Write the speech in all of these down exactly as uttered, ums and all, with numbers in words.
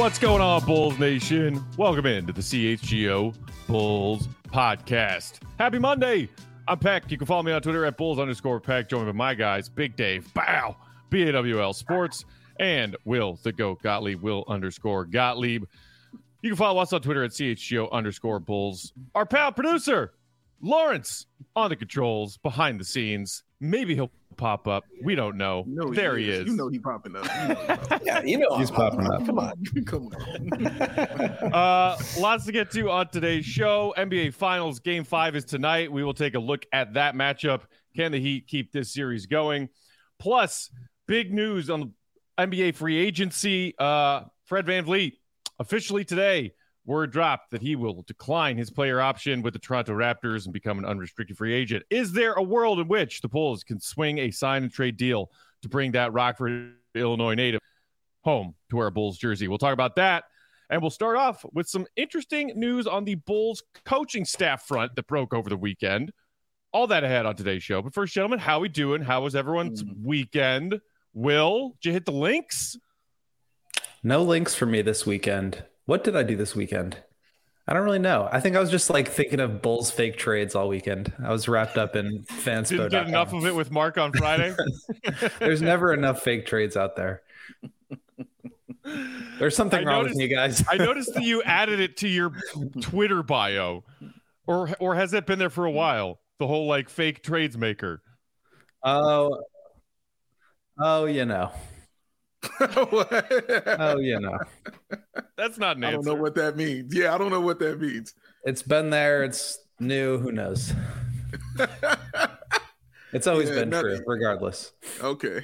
What's going on, Bulls Nation? Welcome into the C H G O Bulls Podcast. Happy Monday. I'm Peck. You can follow me on Twitter at Bulls underscore Peck. Joined by my guys, Big Dave, Bow, B A W L Sports, and Will, the GOAT, Gottlieb, Will underscore Gottlieb. You can follow us on Twitter at C H G O underscore Bulls. Our pal producer, Lawrence, on the controls, behind the scenes. Maybe he'll pop up. We don't know. No, there he is. is. You know he's popping up. You know yeah, you know he's popping up. Come on. Come on. uh, lots to get to on today's show. N B A Finals Game five is tonight. We will take a look at that matchup. Can the Heat keep this series going? Plus, big news on N B A free agency. Uh, Fred VanVleet, officially today, word dropped that he will decline his player option with the Toronto Raptors and become an unrestricted free agent. Is there a world in which the Bulls can swing a sign and trade deal to bring that Rockford, Illinois native home to wear a Bulls jersey? We'll talk about that. And we'll start off with some interesting news on the Bulls coaching staff front that broke over the weekend. All that ahead on today's show. But first, gentlemen, how we doing? How was everyone's mm. weekend? Will, did you hit the links? No links for me this weekend. What did I do this weekend? I don't really know. I think I was just like thinking of Bulls fake trades all weekend. I was wrapped up in fanspo. Didn't get enough of it with Mark on Friday? There's never enough fake trades out there. There's something I wrong noticed, with you guys. I noticed that you added it to your Twitter bio. Or or has it been there for a while? The whole like fake trades maker. Oh, oh, you know. oh, you know. That's not an I answer. don't know what that means. Yeah, I don't know what that means. It's been there. It's new. Who knows? It's always yeah, been nothing. True, regardless. Okay.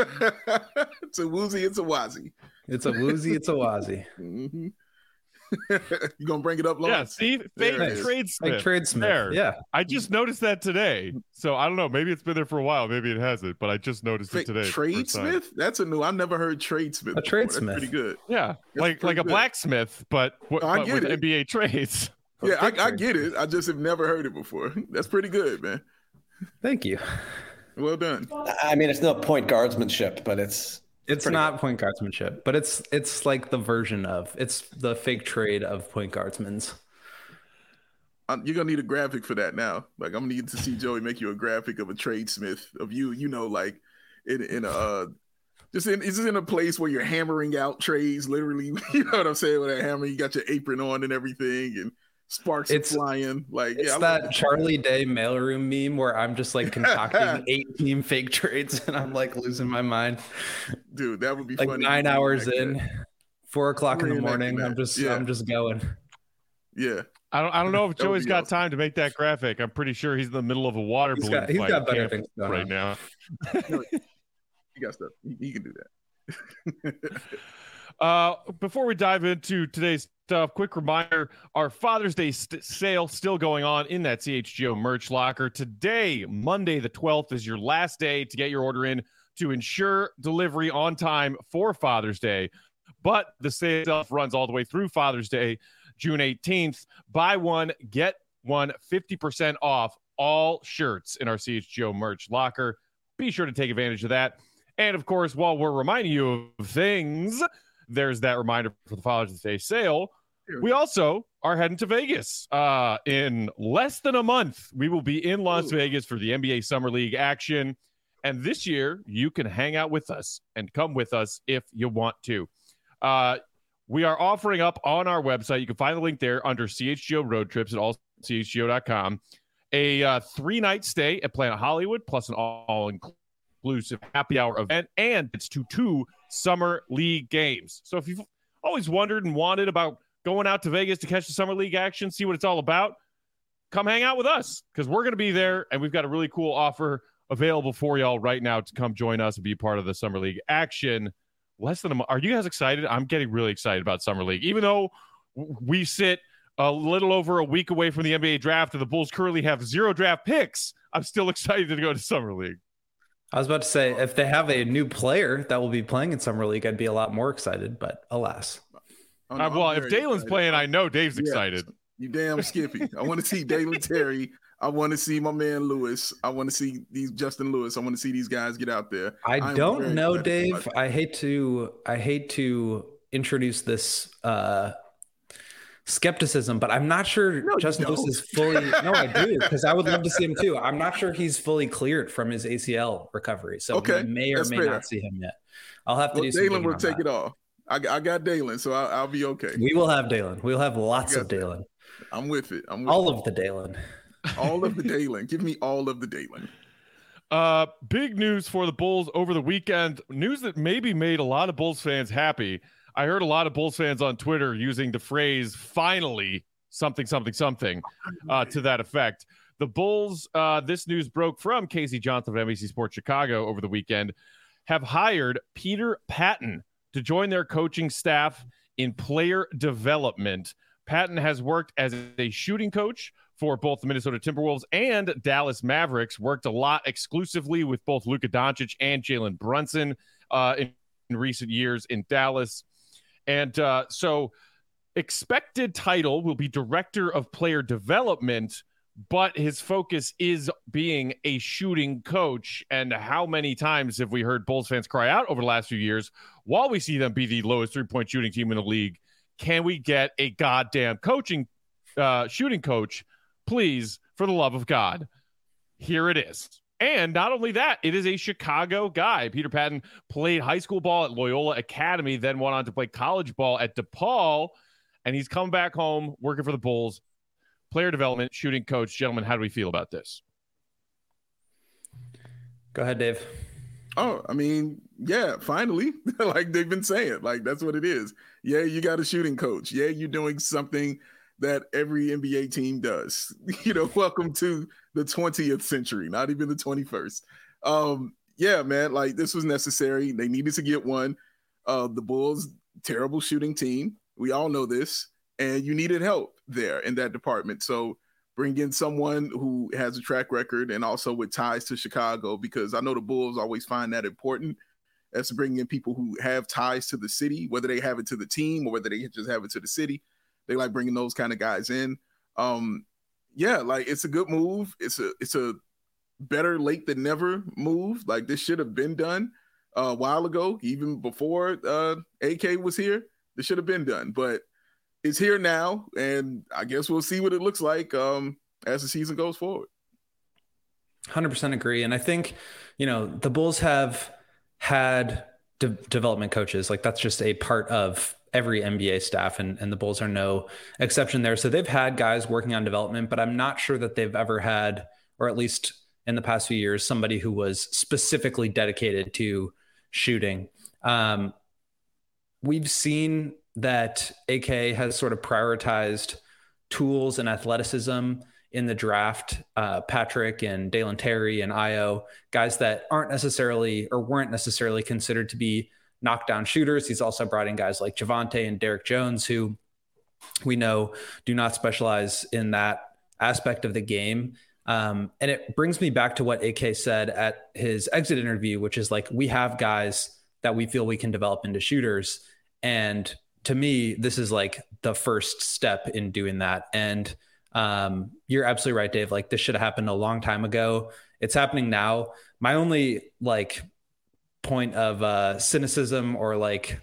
It's a woozy. It's a wazi. It's a woozy. It's a wazi. Mm-hmm. You gonna bring it up, Lawrence? Yeah, see, fake trade Smith. Fake trade Smith. There. Yeah, I just noticed that today. So I don't know. Maybe it's been there for a while. Maybe it hasn't. But I just noticed fake it today. Trade Smith? That's a new. I've never heard trade Smith. A trade Smith. That's pretty good. Yeah, That's like like a good. blacksmith, but, w- I but get with it. N B A trades. Yeah, I, I get it. I just have never heard it before. That's pretty good, man. Thank you. Well done. I mean, it's not point guardsmanship, but it's. It's not good. Point guardsmanship, but it's it's like the version of it's the fake trade of point guardsmen's. Um, you're gonna need a graphic for that now. Like I'm gonna need to see Joey make you a graphic of a trade Smith of you. You know, like in in a uh, just in it's just in a place where you're hammering out trades. Literally, you know what I'm saying? With a hammer, you got your apron on and everything, and sparks it's, are flying. Like it's yeah, that like Charlie Day mailroom meme where I'm just like concocting eight team fake trades and I'm like losing my mind. Dude, that would be like funny. Nine hours in, that. four o'clock We're in the morning. I'm just yeah. I'm just going. Yeah. I don't I don't know if Joey's got awesome. time to make that graphic. I'm pretty sure he's in the middle of a water he's balloon got, he's fight got better things right on. now. No, he got stuff. He, he can do that. Uh, before we dive into today's stuff, quick reminder, our Father's Day st- sale still going on in that C H G O merch locker. Today, Monday the twelfth, is your last day to get your order in to ensure delivery on time for Father's Day. But the sale itself runs all the way through Father's Day, June eighteenth. Buy one, get one, fifty percent off all shirts in our C H G O merch locker. Be sure to take advantage of that. And, of course, while we're reminding you of things, there's that reminder for the Father's Day sale. We also are heading to Vegas. Uh, in less than a month, we will be in Las Ooh. Vegas for the N B A Summer League action. And this year, you can hang out with us and come with us if you want to. Uh, we are offering up on our website. You can find the link there under C H G O Road Trips at all C H G O dot com. A uh, three-night stay at Planet Hollywood plus an all-inclusive happy hour event, and it's to two Summer League games. So if you've always wondered and wanted about going out to Vegas to catch the Summer League action, see what it's all about, come hang out with us because we're going to be there, and we've got a really cool offer available for y'all right now to come join us and be part of the Summer League action. Less than a month. Are you guys excited? I'm getting really excited about Summer League. Even though we sit a little over a week away from the N B A draft and the Bulls currently have zero draft picks, I'm still excited to go to Summer League. I was about to say, if they have a new player that will be playing in Summer League, I'd be a lot more excited, but alas. Oh, no, uh, well, if Dalen's excited. playing, I know Dave's yeah, excited. You damn Skippy. I want to see Dalen Terry. I want to see my man Lewis. I want to see these Justin Lewis. I want to see these guys get out there. I I'm don't know, Dave. I hate to I hate to introduce this uh, skepticism, but I'm not sure no, Justin Lewis is fully. No, I do, because I would love to see him too. I'm not sure he's fully cleared from his A C L recovery, so okay, we may or may fair. not see him yet. I'll have to well, do some. Dalen will take that. it off. I, I got Dalen, so I'll, I'll be okay. We will have Dalen. We'll have lots of Dalen. I'm with it. I'm with all it. of the Dalen. All of the Dalen. Give me all of the Dalen. Uh, big news for the Bulls over the weekend. News that maybe made a lot of Bulls fans happy. I heard a lot of Bulls fans on Twitter using the phrase "finally something, something, something" uh, to that effect. The Bulls, uh, this news broke from Casey Johnson of N B C Sports Chicago over the weekend, have hired Peter Patton to join their coaching staff in player development. Patton has worked as a shooting coach for both the Minnesota Timberwolves and Dallas Mavericks, worked a lot exclusively with both Luka Doncic and Jalen Brunson uh, in, in recent years in Dallas. And uh, so expected title will be Director of Player Development, but his focus is being a shooting coach. And how many times have we heard Bulls fans cry out over the last few years, while we see them be the lowest three-point shooting team in the league, can we get a goddamn coaching uh, shooting coach? Please, for the love of God. Here it is. And not only that, it is a Chicago guy. Peter Patton played high school ball at Loyola Academy, then went on to play college ball at DePaul, and he's come back home working for the Bulls. Player development, shooting coach. Gentlemen, how do we feel about this? Go ahead, Dave. Oh, I mean, yeah, finally, like they've been saying, like that's what it is. Yeah, you got a shooting coach. Yeah, you're doing something that every N B A team does. You know, welcome to the twentieth century, not even the twenty-first. Um, yeah, man, like this was necessary. They needed to get one. Uh, the Bulls, terrible shooting team. We all know this, and you needed help there in that department. So bring in someone who has a track record and also with ties to Chicago, because I know the Bulls always find that important, as to bring in people who have ties to the city, whether they have it to the team or whether they just have it to the city. They like bringing those kind of guys in. Um, yeah, like it's a good move. It's a it's a better late than never move. Like this should have been done a while ago, even before uh, A K was here. This should have been done, but it's here now, and I guess we'll see what it looks like um, as the season goes forward. one hundred percent agree. And I think, you know, the Bulls have had de- development coaches. Like that's just a part of every N B A staff, and, and the Bulls are no exception there. So they've had guys working on development, but I'm not sure that they've ever had, or at least in the past few years, somebody who was specifically dedicated to shooting. Um, we've seen that A K has sort of prioritized tools and athleticism in the draft. Uh, Patrick and Dalen Terry and Io, guys that aren't necessarily or weren't necessarily considered to be knockdown shooters. He's also brought in guys like Javante and Derek Jones, who we know do not specialize in that aspect of the game. Um, and it brings me back to what A K said at his exit interview, which is like, we have guys that we feel we can develop into shooters. And to me, this is like the first step in doing that. And um, you're absolutely right, Dave. Like this should have happened a long time ago. It's happening now. My only like point of uh, cynicism, or like,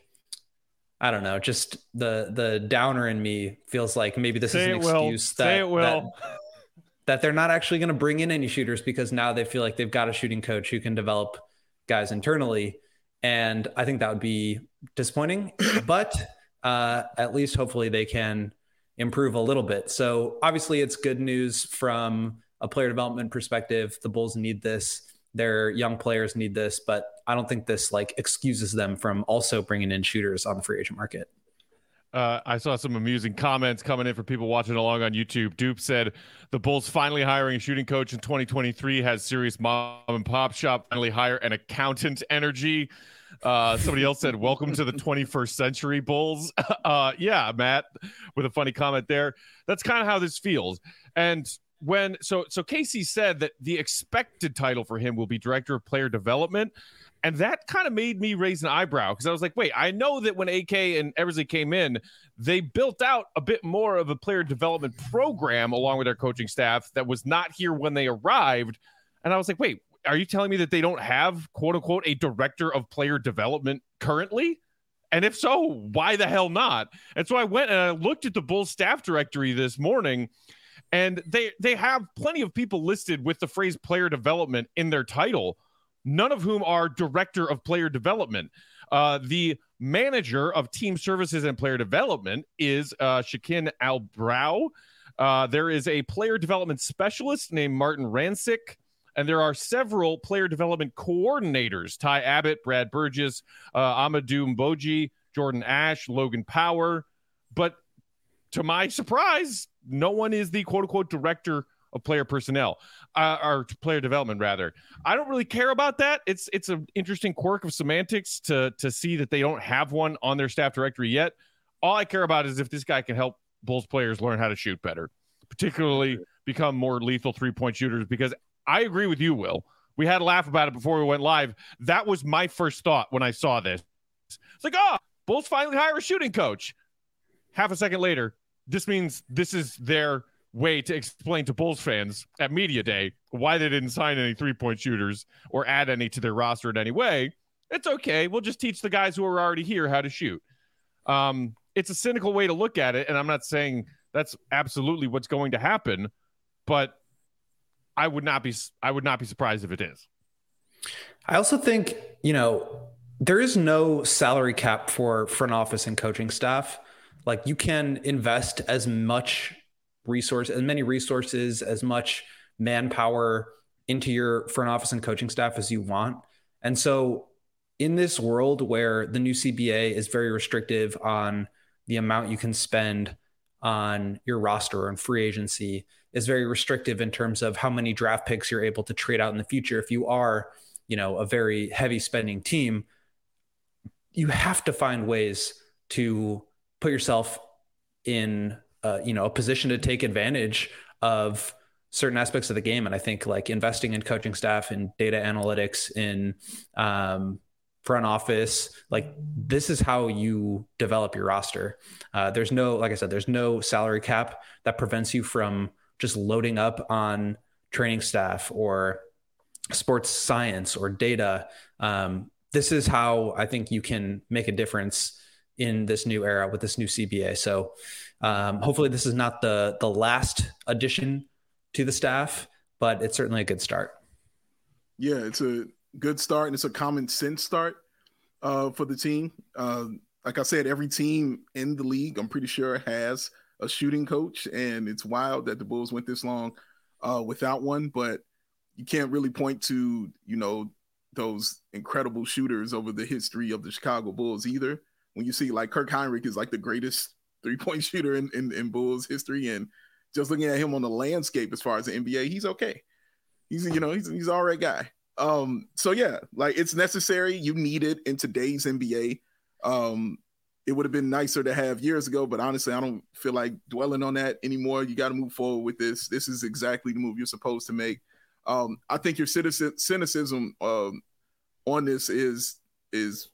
I don't know, just the the downer in me feels like maybe this Say is an excuse that, Say it will. that that they're not actually going to bring in any shooters, because now they feel like they've got a shooting coach who can develop guys internally. And I think that would be disappointing, but uh, at least hopefully they can improve a little bit. So obviously it's good news from a player development perspective. The Bulls need this. Their young players need this, but I don't think this like excuses them from also bringing in shooters on the free agent market. Uh, I saw some amusing comments coming in for people watching along on YouTube. Dupe said the Bulls finally hiring a shooting coach in twenty twenty-three has serious mom and pop shop finally hire an accountant energy. Uh, somebody else said, welcome to the twenty-first century, Bulls. Uh, yeah, Matt, with a funny comment there. That's kind of how this feels. And when, so, so Casey said that the expected title for him will be Director of Player Development. And that kind of made me raise an eyebrow, because I was like, wait, I know that when A K and Eversley came in, they built out a bit more of a player development program along with their coaching staff that was not here when they arrived. And I was like, wait, are you telling me that they don't have, quote unquote, a director of player development currently? And if so, why the hell not? And so I went and I looked at the Bulls staff directory this morning, and they they have plenty of people listed with the phrase player development in their title, none of whom are director of player development. Uh, the manager of team services and player development is uh, Shakin Al-Brow. Uh, there is a player development specialist named Martin Rancic, and there are several player development coordinators: Ty Abbott, Brad Burgess, uh, Amadou Mboji, Jordan Ash, Logan Power. But to my surprise, no one is the quote-unquote director of player personnel, uh, or player development, rather. I don't really care about that. It's it's an interesting quirk of semantics to, to see that they don't have one on their staff directory yet. All I care about is if this guy can help Bulls players learn how to shoot better, particularly become more lethal three-point shooters, because I agree with you, Will. We had a laugh about it before we went live. That was my first thought when I saw this. It's like, oh, Bulls finally hire a shooting coach. Half a second later, this means this is their way to explain to Bulls fans at Media Day why they didn't sign any three-point shooters or add any to their roster in any way. It's okay. We'll just teach the guys who are already here how to shoot. Um, it's a cynical way to look at it, and I'm not saying that's absolutely what's going to happen, but I would not be I would not be surprised if it is. I also think, you know, there is no salary cap for front office and coaching staff. Like, you can invest as much resource, as many resources, as much manpower into your front office and coaching staff as you want. And so in this world where the new C B A is very restrictive on the amount you can spend on your roster and free agency, is very restrictive in terms of how many draft picks you're able to trade out in the future. If you are, you know, a very heavy spending team, you have to find ways to put yourself in, uh, you know, a position to take advantage of certain aspects of the game. And I think like investing in coaching staff and data analytics in um, front office, like this is how you develop your roster. Uh, there's no, like I said, there's no salary cap that prevents you from just loading up on training staff or sports science or data. Um, this is how I think you can make a difference in this new era with this new C B A. So um, hopefully this is not the the last addition to the staff, but it's certainly a good start. Yeah, it's a good start, and it's a common sense start uh, for the team. Uh, like I said, every team in the league, I'm pretty sure, has a shooting coach, and it's wild that the Bulls went this long uh, without one, but you can't really point to, you know, those incredible shooters over the history of the Chicago Bulls either. When you see like Kirk Hinrich is like the greatest three-point shooter in, in, in Bulls history, and just looking at him on the landscape as far as the N B A, he's okay. He's, you know, he's he's all right guy. Um, so yeah, like it's necessary. You need it in today's N B A. Um, it would have been nicer to have years ago, but honestly, I don't feel like dwelling on that anymore. You got to move forward with this. This is exactly the move you're supposed to make. Um, I think your cynicism um, on this is is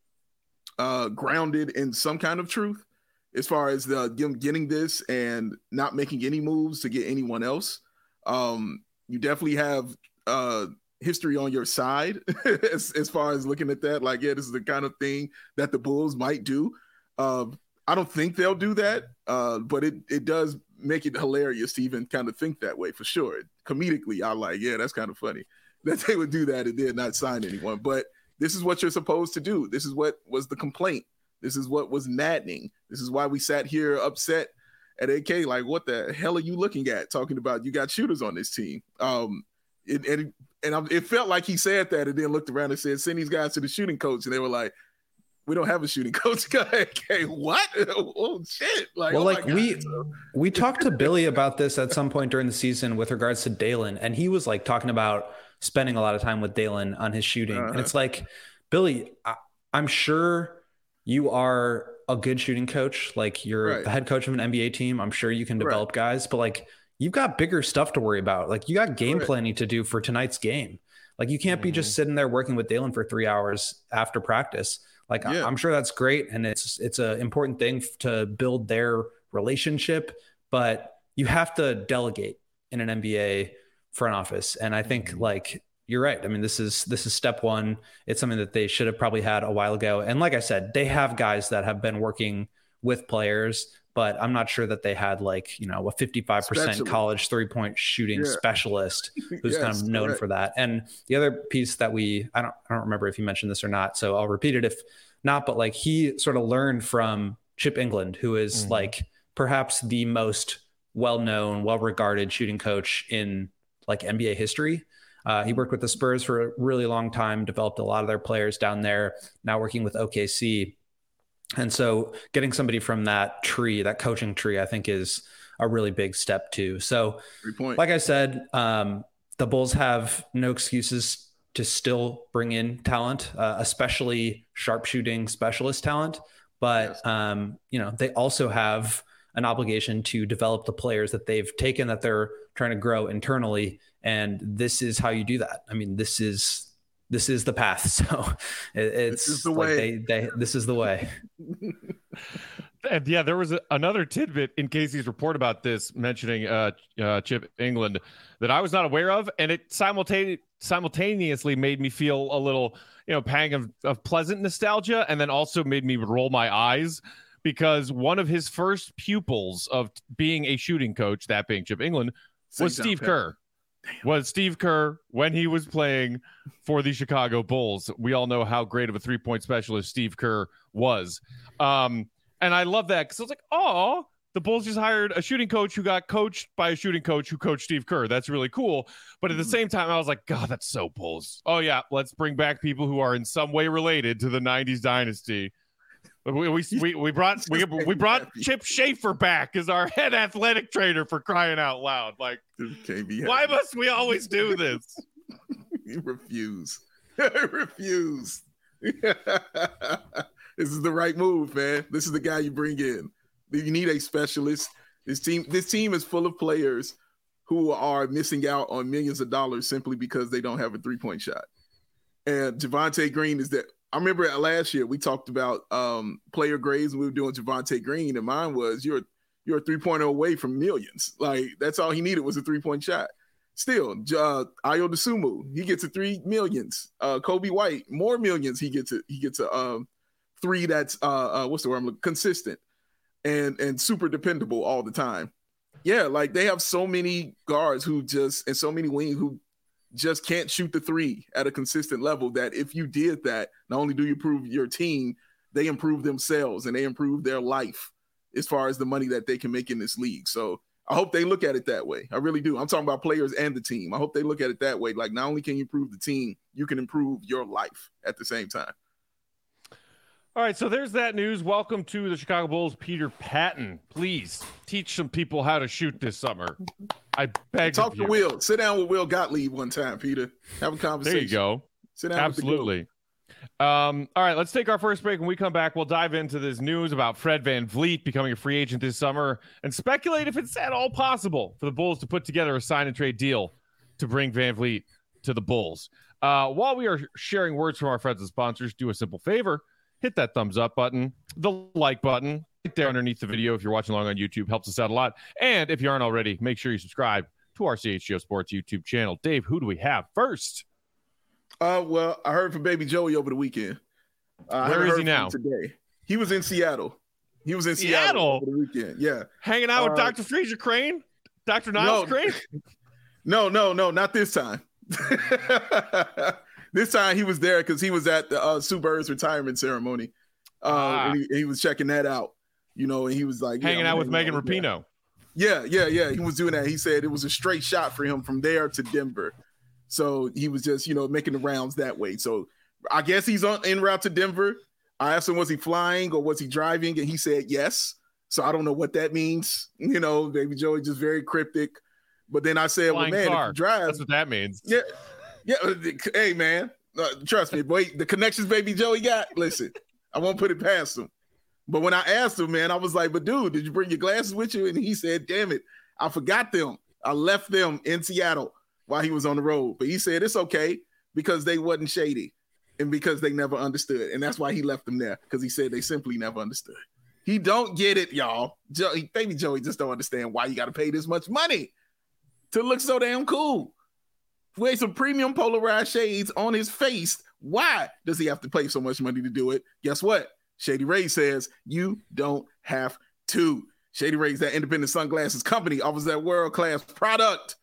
uh, grounded in some kind of truth, as far as the getting this and not making any moves to get anyone else. Um, you definitely have uh, history on your side as, as far as looking at that. Like, yeah, this is the kind of thing that the Bulls might do. Uh, I don't think they'll do that, uh, but it it does make it hilarious to even kind of think that way for sure. Comedically, I'm like, yeah, that's kind of funny that they would do that and then not sign anyone. But this is what you're supposed to do. This is what was the complaint. This is what was maddening. This is why we sat here upset at A K. Like, what the hell are you looking at? Talking about you got shooters on this team. Um, it, and and it felt like he said that and then looked around and said, send these guys to the shooting coach. And they were like, we don't have a shooting coach. Okay, what? Oh shit! Like, well, oh like we we talked to Billy about this at some point during the season with regards to Dalen, and he was like talking about spending a lot of time with Dalen on his shooting, uh-huh. and it's like, Billy, I, I'm sure you are a good shooting coach. Like, you're right. the head coach of an N B A team. I'm sure you can develop right. guys, but like, you've got bigger stuff to worry about. Like, you got game right. planning to do for tonight's game. Like, you can't mm-hmm. be just sitting there working with Dalen for three hours after practice. Like, yeah. I'm sure that's great, and it's it's an important thing to build their relationship, but you have to delegate in an N B A front office. And I think, mm-hmm. like, you're right. I mean, this is this is step one. It's something that they should have probably had a while ago. And like I said, they have guys that have been working with players, but I'm not sure that they had like, you know, a fifty-five percent Specialist. college three-point shooting Yeah. specialist who's Yes, kind of known correct. for that. And the other piece that we, I don't, I don't remember if you mentioned this or not, so I'll repeat it if not, but like he sort of learned from Chip England, who is Mhm. like perhaps the most well-known, well-regarded shooting coach in like N B A history. Uh, he worked with the Spurs for a really long time, developed a lot of their players down there, now working with O K C. And so getting somebody from that tree, that coaching tree, I think is a really big step too. So Three point. like I said, um, the Bulls have no excuses to still bring in talent, uh, especially sharpshooting specialist talent. But, Yes. um, you know, they also have an obligation to develop the players that they've taken that they're trying to grow internally. And this is how you do that. I mean, this is, this is the path. So it, it's is the like way. They, they, this is the way. And yeah, there was a, another tidbit in Casey's report about this, mentioning uh, uh, Chip England that I was not aware of, and it simultane- simultaneously made me feel a little, you know, pang of, of pleasant nostalgia, and then also made me roll my eyes because one of his first pupils of being a shooting coach, that being Chip England, was Saint John Steve Pat- Kerr. Was Steve Kerr when he was playing for the Chicago Bulls. We all know how great of a three-point specialist Steve Kerr was. Um, and I love that because I was like, oh, the Bulls just hired a shooting coach who got coached by a shooting coach who coached Steve Kerr. That's really cool. But at the same time, I was like, God, that's so Bulls. Oh, yeah, let's bring back people who are in some way related to the nineties dynasty. We we we, we brought we, we brought Chip Schaefer back as our head athletic trainer, for crying out loud. Like, Can't be why happy. must we always do this? You refuse. refuse. This is the right move, man. This is the guy you bring in. You need a specialist. This team, this team is full of players who are missing out on millions of dollars simply because they don't have a three-point shot. And Javonte Green is that. I remember last year we talked about um, player grades and we were doing Javonte Green, and mine was you're you're a three-pointer away from millions. Like that's all he needed was a three-point shot. Still, uh, Ayo Dosunmu, he gets a three millions. Uh, Kobe White, more millions. He gets a he gets a um, three that's uh, uh, what's the word? I'm looking, consistent and and super dependable all the time. Yeah, like they have so many guards who just and so many wings who just can't shoot the three at a consistent level that if you did that, not only do you improve your team, they improve themselves and they improve their life as far as the money that they can make in this league. So I hope they look at it that way. I really do. I'm talking about players and the team. I hope they look at it that way. Like not only can you improve the team, you can improve your life at the same time. All right, so there's that news. Welcome to the Chicago Bulls, Peter Patton. Please teach some people how to shoot this summer. I beg Talk of to you. Will. Sit down with Will Gottlieb one time, Peter. Have a conversation. There you go. Sit down Absolutely. Um, all right, let's take our first break. When we come back, we'll dive into this news about Fred VanVleet becoming a free agent this summer and speculate if it's at all possible for the Bulls to put together a sign and trade deal to bring VanVleet to the Bulls. Uh, while we are sharing words from our friends and sponsors, do a simple favor. Hit that thumbs up button, the like button right there underneath the video. If you're watching along on YouTube, helps us out a lot. And if you aren't already, make sure you subscribe to our C H G O Sports YouTube channel. Dave, who do we have first? Uh, well, I heard from Baby Joey over the weekend. Uh, I Where haven't is heard he from now? him today? He was in Seattle. He was in Seattle, Seattle? over the weekend. Yeah. Hanging out with Uh, Doctor Fraser Crane? Doctor Niles no. Crane? No, no, no, not this time. This time he was there because he was at the uh, Sue Bird's retirement ceremony. Uh, Ah. and he, he was checking that out, you know, and he was like, yeah, Hanging I'm out with hanging Megan Rapinoe. Yeah, yeah, yeah. He was doing that. He said it was a straight shot for him from there to Denver. So he was just, you know, making the rounds that way. So I guess he's on en route to Denver. I asked him, was he flying or was he driving? And he said yes. So I don't know what that means. You know, Baby Joey just very cryptic. But then I said, Flying well, man, car. if you drive, That's what that means. yeah, yeah. Hey, man, uh, trust me, boy. The connections Baby Joey got. Listen, I won't put it past him. But when I asked him, man, I was like, but dude, did you bring your glasses with you? And he said, damn it, I forgot them. I left them in Seattle while he was on the road. But he said it's okay because they wasn't shady and because they never understood. And that's why he left them there, because he said they simply never understood. He don't get it, y'all. Joey, Baby Joey just don't understand why you got to pay this much money to look so damn cool. wear some premium polarized shades on his face. Why does he have to pay so much money to do it? Guess what? Shady Rays says you don't have to. Shady Rays, that independent sunglasses company, offers that world-class product.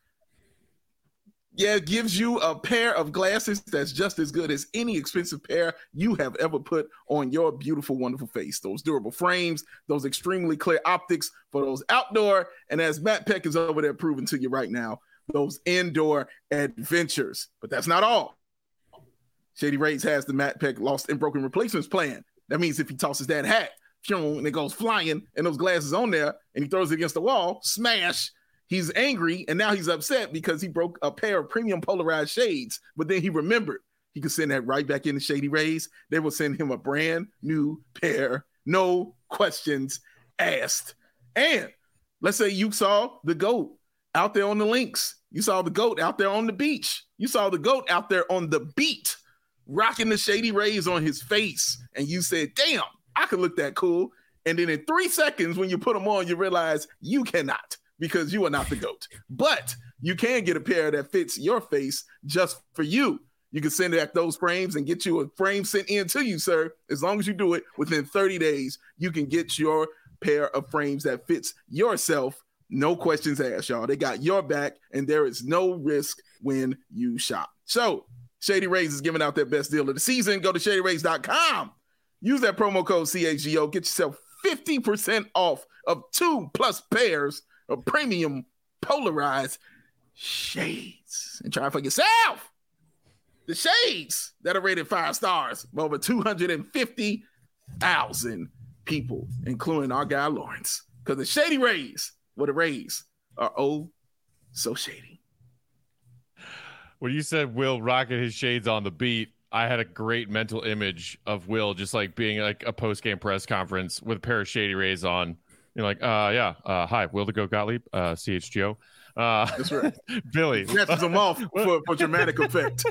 Yeah, it gives you a pair of glasses that's just as good as any expensive pair you have ever put on your beautiful, wonderful face. Those durable frames, those extremely clear optics for those outdoor, and as Matt Peck is over there proving to you right now, those indoor adventures. But that's not all. Shady Rays has the Matt Peck lost and broken replacements plan. That means if he tosses that hat, and it goes flying, and those glasses on there, and he throws it against the wall, smash, he's angry, and now he's upset because he broke a pair of premium polarized shades, but then he remembered he could send that right back into Shady Rays. They will send him a brand new pair, no questions asked. And let's say you saw the GOAT out there on the links. You saw the GOAT out there on the beach. You saw the GOAT out there on the beat, rocking the Shady Rays on his face, and you said, damn, I could look that cool. And then in three seconds, when you put them on, you realize you cannot, because you are not the GOAT. But you can get a pair that fits your face just for you. You can send back those frames and get you a frame sent in to you, sir. As long as you do it within thirty days, you can get your pair of frames that fits yourself. No questions asked, y'all. They got your back, and there is no risk when you shop. So Shady Rays is giving out their best deal of the season. Go to shady rays dot com. Use that promo code C H G O. Get yourself fifty percent off of two plus pairs of premium polarized shades. And try it for yourself. The shades that are rated five stars by over two hundred fifty thousand people, including our guy Lawrence. Because the Shady Rays, well, the Rays are oh so shady. When you said Will rocking his shades on the beat, I had a great mental image of Will just like being like a post-game press conference with a pair of Shady Rays on. You're like, uh, yeah, uh, hi, Will the Goat Gottlieb, uh, C H G O. Uh, That's right. Billy. Snatches them off for, for dramatic effect.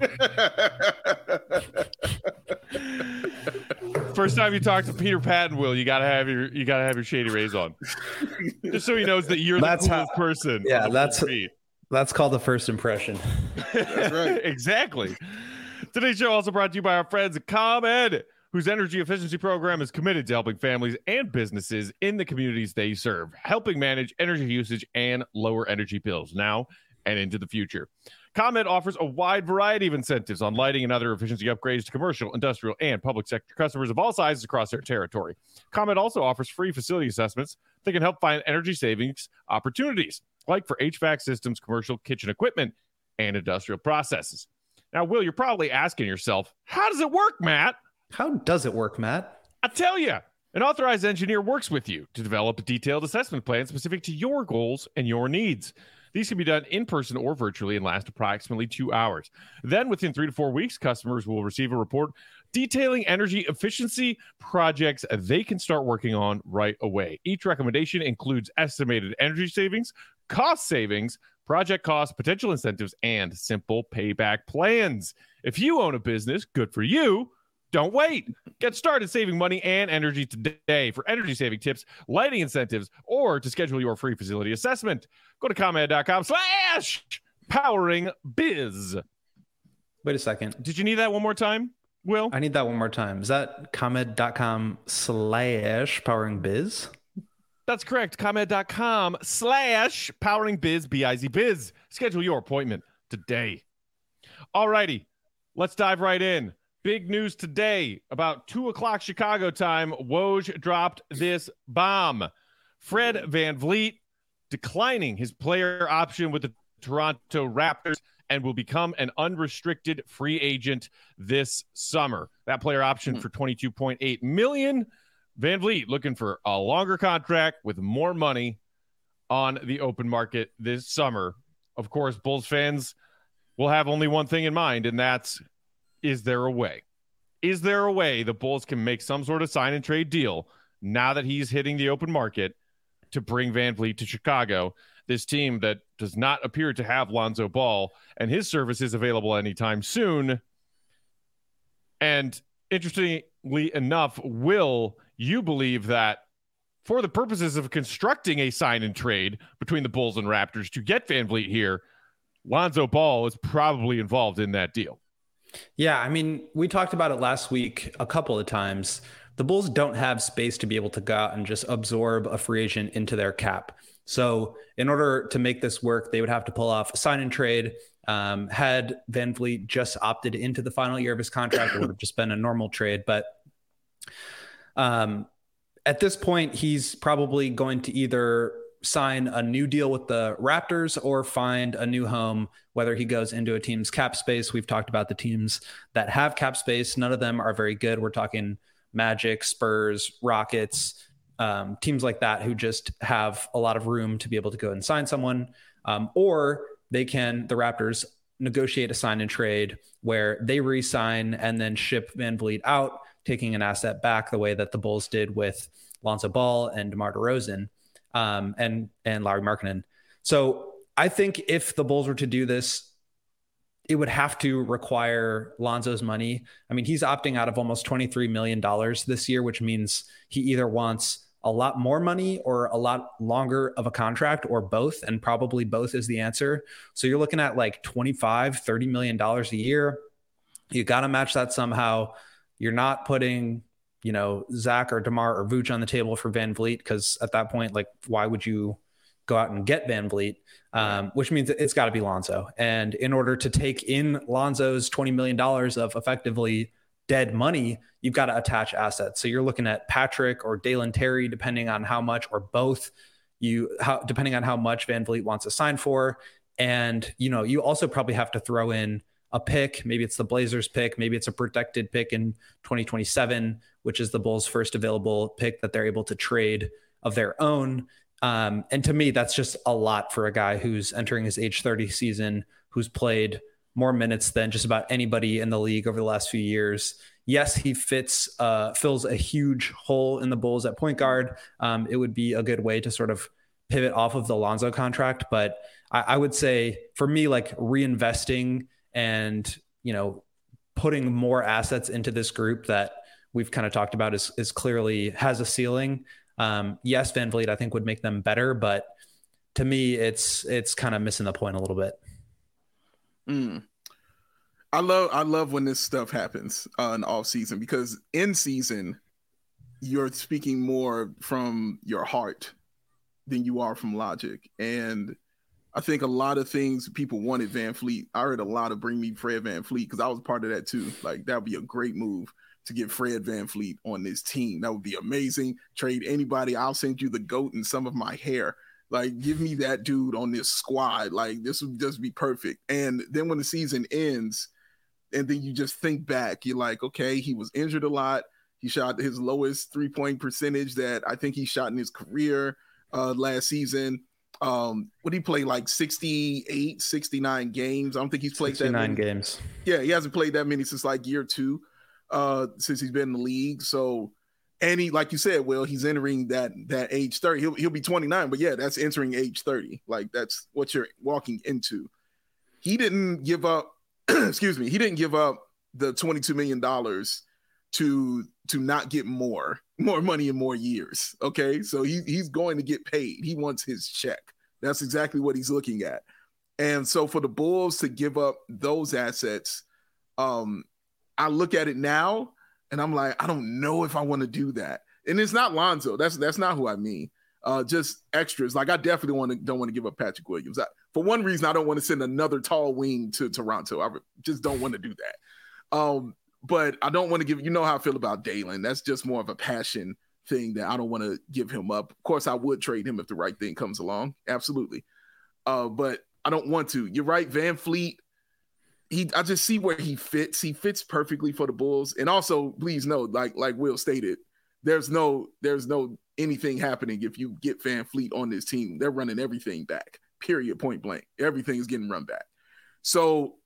First time you talk to Peter Patton, Will, you gotta have your you gotta have your Shady Rays on, just so he knows that you're That's the coolest how, person. Yeah, that's that's called the first impression. That's right. Exactly. Today's show also brought to you by our friends at ComEd, whose energy efficiency program is committed to helping families and businesses in the communities they serve, helping manage energy usage and lower energy bills now and into the future. ComEd offers a wide variety of incentives on lighting and other efficiency upgrades to commercial, industrial, and public sector customers of all sizes across their territory. ComEd also offers free facility assessments that can help find energy savings opportunities, like for H V A C systems, commercial kitchen equipment, and industrial processes. Now, Will, you're probably asking yourself, how does it work, Matt? How does it work, Matt? I tell you, an authorized engineer works with you to develop a detailed assessment plan specific to your goals and your needs. These can be done in person or virtually and last approximately two hours. Then within three to four weeks, customers will receive a report detailing energy efficiency projects they can start working on right away. Each recommendation includes estimated energy savings, cost savings, project costs, potential incentives, and simple payback plans. If you own a business, good for you. Don't wait. Get started saving money and energy today. For energy saving tips, lighting incentives, or to schedule your free facility assessment, go to ComEd.com slash powering biz. Wait a second. Did you need that one more time, Will? I need that one more time. Is that ComEd.com slash powering biz? That's correct. ComEd.com slash powering biz, B I Z biz. Schedule your appointment today. All righty. Let's dive right in. Big news today, about two o'clock Chicago time, Woj dropped this bomb. Fred VanVleet declining his player option with the Toronto Raptors and will become an unrestricted free agent this summer. That player option for twenty-two point eight million dollars. VanVleet looking for a longer contract with more money on the open market this summer. Of course, Bulls fans will have only one thing in mind, and that's, is there a way? Is there a way the Bulls can make some sort of sign and trade deal now that he's hitting the open market to bring VanVleet to Chicago, this team that does not appear to have Lonzo Ball and his services available anytime soon? And interestingly enough, Will, you believe that for the purposes of constructing a sign and trade between the Bulls and Raptors to get VanVleet here, Lonzo Ball is probably involved in that deal. Yeah, I mean, we talked about it last week a couple of times. The Bulls don't have space to be able to go out and just absorb a free agent into their cap. So in order to make this work, they would have to pull off a sign and trade. Um, had VanVleet just opted into the final year of his contract, it would have just been a normal trade. But um, at this point, he's probably going to either sign a new deal with the Raptors or find a new home, whether he goes into a team's cap space. We've talked about the teams that have cap space. None of them are very good. We're talking Magic, Spurs, Rockets, um, teams like that who just have a lot of room to be able to go and sign someone. Um, or they can, the Raptors, negotiate a sign and trade where they re-sign and then ship VanVleet out, taking an asset back the way that the Bulls did with Lonzo Ball and DeMar DeRozan. Um, and and Lauri Markkanen. So I think if the Bulls were to do this, it would have to require Lonzo's money. I mean, he's opting out of almost twenty-three million dollars this year, which means he either wants a lot more money or a lot longer of a contract or both, and probably both is the answer. So you're looking at like twenty-five, thirty million dollars a year. You got to match that somehow. You're not putting, you know, Zach or DeMar or Vooch on the table for VanVleet, because at that point, like, why would you go out and get VanVleet? Um, which means it's got to be Lonzo. And in order to take in Lonzo's twenty million dollars of effectively dead money, you've got to attach assets. So you're looking at Patrick or Dalen Terry, depending on how much, or both, you how, depending on how much VanVleet wants to sign for. And, you know, you also probably have to throw in a pick. Maybe it's the Blazers pick. Maybe it's a protected pick in twenty twenty-seven, which is the Bulls' first available pick that they're able to trade of their own. Um, and to me, that's just a lot for a guy who's entering his age thirty season, who's played more minutes than just about anybody in the league over the last few years. Yes, he fits, uh, fills a huge hole in the Bulls at point guard. Um, it would be a good way to sort of pivot off of the Lonzo contract. But I, I would say for me, like reinvesting and, you know, putting more assets into this group that we've kind of talked about is, is clearly has a ceiling. Um, yes, VanVleet, I think, would make them better, but to me, it's, it's kind of missing the point a little bit. Mm. I love, I love when this stuff happens uh, in off season, because in season, you're speaking more from your heart than you are from logic. And I think a lot of things people wanted VanVleet. I heard a lot of bring me Fred VanVleet, because I was part of that too. Like, that would be a great move to get Fred VanVleet on this team. That would be amazing. Trade anybody. I'll send you the GOAT and some of my hair. Like, give me that dude on this squad. Like, this would just be perfect. And then when the season ends, and then you just think back, you're like, okay, he was injured a lot. He shot his lowest three-point percentage that I think he shot in his career uh, last season. Um, what did he play, like sixty-eight, sixty-nine games? I don't think he's played that many. games. Yeah, he hasn't played that many since like year two, uh, since he's been in the league. So, and he, like you said, Will, he's entering that that age thirty. He'll he'll be twenty-nine, but yeah, that's entering age thirty. Like, that's what you're walking into. He didn't give up. excuse me. He didn't give up the twenty-two million dollars to to not get more more money in more years. Okay, so he he's going to get paid. He wants his check. That's exactly what he's looking at. And so for the Bulls to give up those assets, um, I look at it now and I'm like, I don't know if I want to do that. And it's not Lonzo. That's that's not who I mean. Uh, just extras. Like, I definitely want to don't want to give up Patrick Williams. I, for one reason, I don't want to send another tall wing to Toronto. I just don't want to do that. Um, but I don't want to give, you know how I feel about Dalen. That's just more of a passion thing that I don't want to give him up. Of course, I would trade him if the right thing comes along. Absolutely. Uh, but I don't want to. You're right. VanVleet, he, I just see where he fits. He fits perfectly for the Bulls. And also, please note, like, like Will stated, there's no, there's no anything happening if you get VanVleet on this team. They're running everything back, period, point blank. Everything is getting run back. So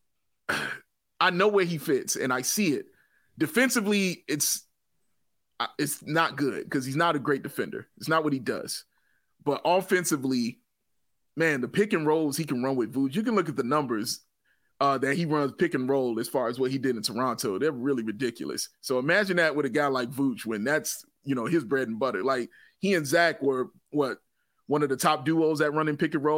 I know where he fits, and I see it. Defensively, it's it's not good because he's not a great defender. It's not what he does. But offensively, man, the pick and rolls he can run with Vooch. You can look at the numbers uh, that he runs pick and roll as far as what he did in Toronto. They're really ridiculous. So imagine that with a guy like Vooch when that's, you know, his bread and butter. Like, he and Zach were, what, one of the top duos at running pick and roll.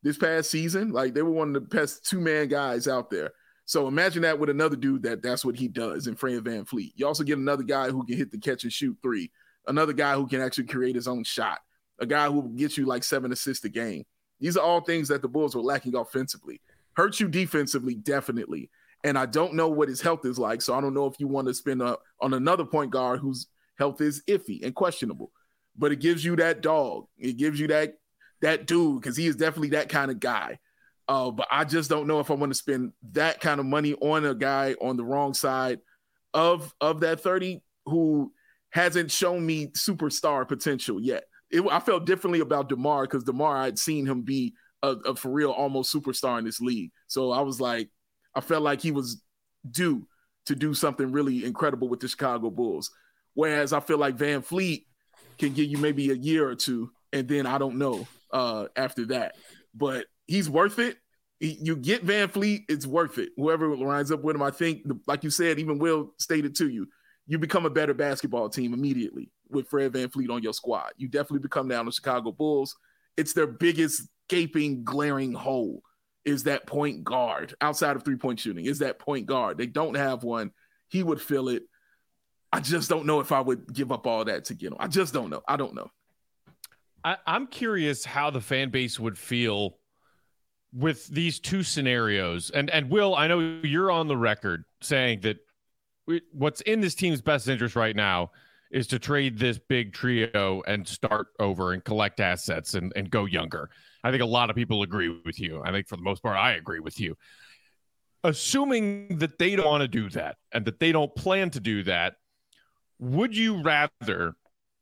this past season. Like they were one of the best two man guys out there. So imagine that with another dude that that's what he does in Fred VanVleet. You also get another guy who can hit the catch and shoot three, another guy who can actually create his own shot, a guy who will get you like seven assists a game. These are all things that the Bulls were lacking offensively. Hurt you defensively, definitely. And I don't know what his health is like, so I don't know if you want to spend a, on another point guard whose health is iffy and questionable. But it gives you that dog. It gives you that that dude, because he is definitely that kind of guy. Uh, but I just don't know if I want to spend that kind of money on a guy on the wrong side of, of that thirty who hasn't shown me superstar potential yet. It, I felt differently about DeMar because DeMar, I'd seen him be a, a for real almost superstar in this league. So I was like, I felt like he was due to do something really incredible with the Chicago Bulls. Whereas I feel like VanVleet can give you maybe a year or two, and then I don't know uh, after that. But he's worth it. He, you get VanVleet, it's worth it. Whoever lines up with him, I think, like you said, even Will stated to you, you become a better basketball team immediately with Fred VanVleet on your squad. You definitely become now the Chicago Bulls. It's their biggest gaping, glaring hole is that point guard outside of three-point shooting, is that point guard. They don't have one. He would fill it. I just don't know if I would give up all that to get him. I just don't know. I don't know. I, I'm curious how the fan base would feel with these two scenarios. And, and Will, I know you're on the record saying that we, what's in this team's best interest right now is to trade this big trio and start over and collect assets and, and go younger. I think a lot of people agree with you. I think for the most part, I agree with you. Assuming that they don't want to do that and that they don't plan to do that, would you rather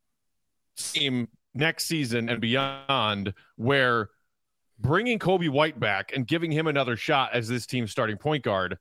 team next season and beyond where bringing Kobe White back and giving him another shot as this team's starting point guard,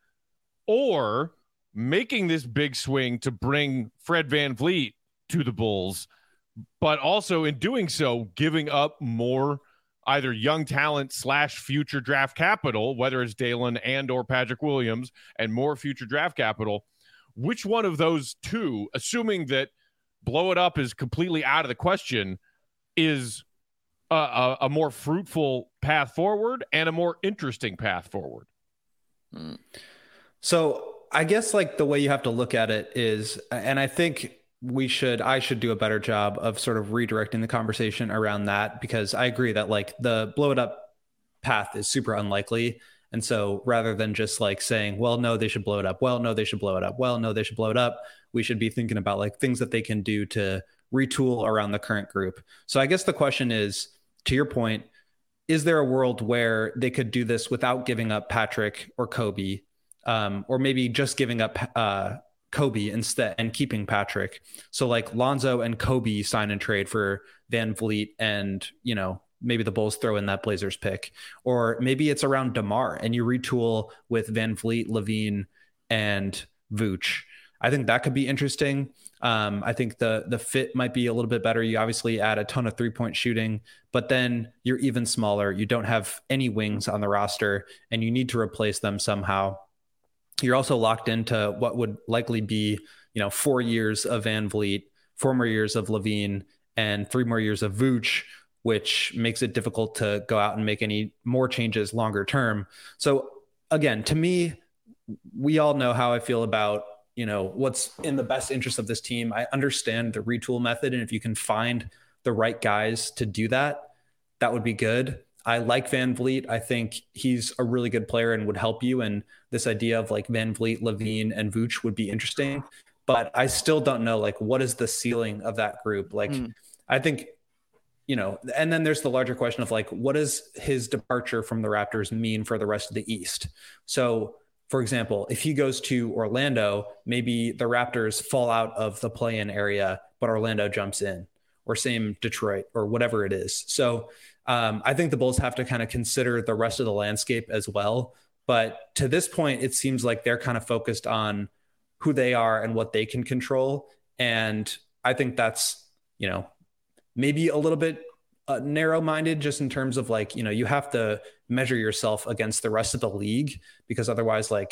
or making this big swing to bring Fred VanVleet to the Bulls, but also in doing so, giving up more either young talent slash future draft capital, whether it's Dalen and or Patrick Williams, and more future draft capital? Which one of those two, assuming that blow it up is completely out of the question, is a, a, a more fruitful path forward and a more interesting path forward? Hmm. So I guess like the way you have to look at it is, and I think we should, I should do a better job of sort of redirecting the conversation around that, because I agree that like the blow it up path is super unlikely. And so rather than just like saying, well, no, they should blow it up. Well, no, they should blow it up. Well, no, they should blow it up. We should be thinking about like things that they can do to retool around the current group. So I guess the question is, to your point, is there a world where they could do this without giving up Patrick or Kobe, um, or maybe just giving up uh, Kobe instead and keeping Patrick? So like Lonzo and Kobe sign and trade for VanVleet, and, you know, maybe the Bulls throw in that Blazers pick, or maybe it's around DeMar and you retool with VanVleet, LaVine, and Vooch. I think that could be interesting. Um, I think the the fit might be a little bit better. You obviously add a ton of three-point shooting, but then you're even smaller. You don't have any wings on the roster, and you need to replace them somehow. You're also locked into what would likely be, you know, four years of VanVleet, four more years of LaVine, and three more years of Vooch, which makes it difficult to go out and make any more changes longer term. So again, to me, we all know how I feel about, you know, what's in the best interest of this team. I understand the retool method, and if you can find the right guys to do that, that would be good. I like VanVleet. I think he's a really good player and would help you. And this idea of like VanVleet, LaVine, and Vooch would be interesting. But I still don't know, like, what is the ceiling of that group? Like, mm. I think, you know, and then there's the larger question of like, what does his departure from the Raptors mean for the rest of the East? So, for example, if he goes to Orlando, maybe the Raptors fall out of the play-in area, but Orlando jumps in, or same Detroit, or whatever it is. So um, I think the Bulls have to kind of consider the rest of the landscape as well. But to this point, it seems like they're kind of focused on who they are and what they can control. And I think that's, you know, maybe a little bit uh, narrow-minded, just in terms of like, you know, you have to measure yourself against the rest of the league, because otherwise, like,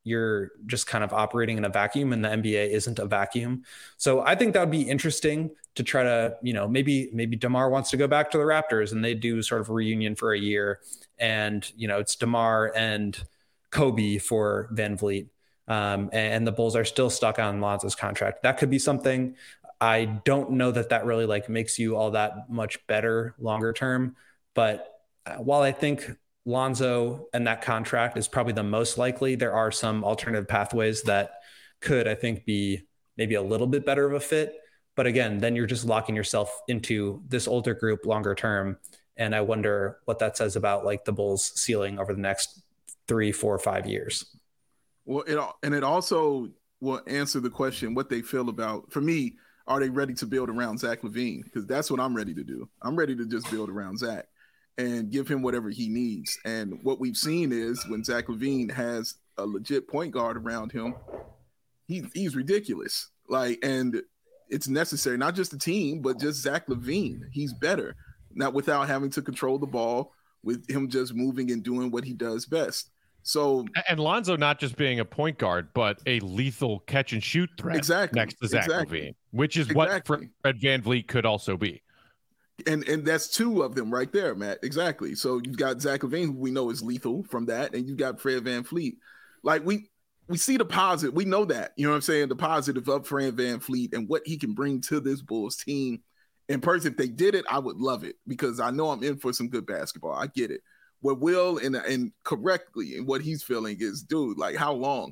you're just kind of operating in a vacuum, and the N B A isn't a vacuum. So I think that would be interesting to try to, you know, maybe, maybe DeMar wants to go back to the Raptors and they do sort of a reunion for a year, and, you know, it's DeMar and Kobe for Van Vliet. Um, and the Bulls are still stuck on Lonzo's contract. That could be something. I don't know that that really like makes you all that much better longer term. But while I think Lonzo and that contract is probably the most likely, there are some alternative pathways that could, I think, be maybe a little bit better of a fit. But again, then you're just locking yourself into this older group longer term. And I wonder what that says about like the Bulls ceiling over the next three, four, five years. Well, it and it also will answer the question what they feel about, for me, are they ready to build around Zach LaVine? Because that's what I'm ready to do. I'm ready to just build around Zach and give him whatever he needs. And what we've seen is when Zach LaVine has a legit point guard around him, he, he's ridiculous. Like, and it's necessary, not just the team, but just Zach LaVine. He's better, not without having to control the ball, with him just moving and doing what he does best. So, and Lonzo not just being a point guard, but a lethal catch and shoot threat exactly, next to Zach exactly. LaVine, which is exactly. what Fred Van Vliet could also be. And and that's two of them right there, Matt. Exactly. So you've got Zach LaVine, who we know is lethal from that, and you've got Fred Van Vliet. Like we we see the positive. We know that. You know what I'm saying? The positive of Fred Van Vliet and what he can bring to this Bulls team. In person, if they did it, I would love it because I know I'm in for some good basketball. I get it. What Will and and correctly and what he's feeling is, dude, like how long?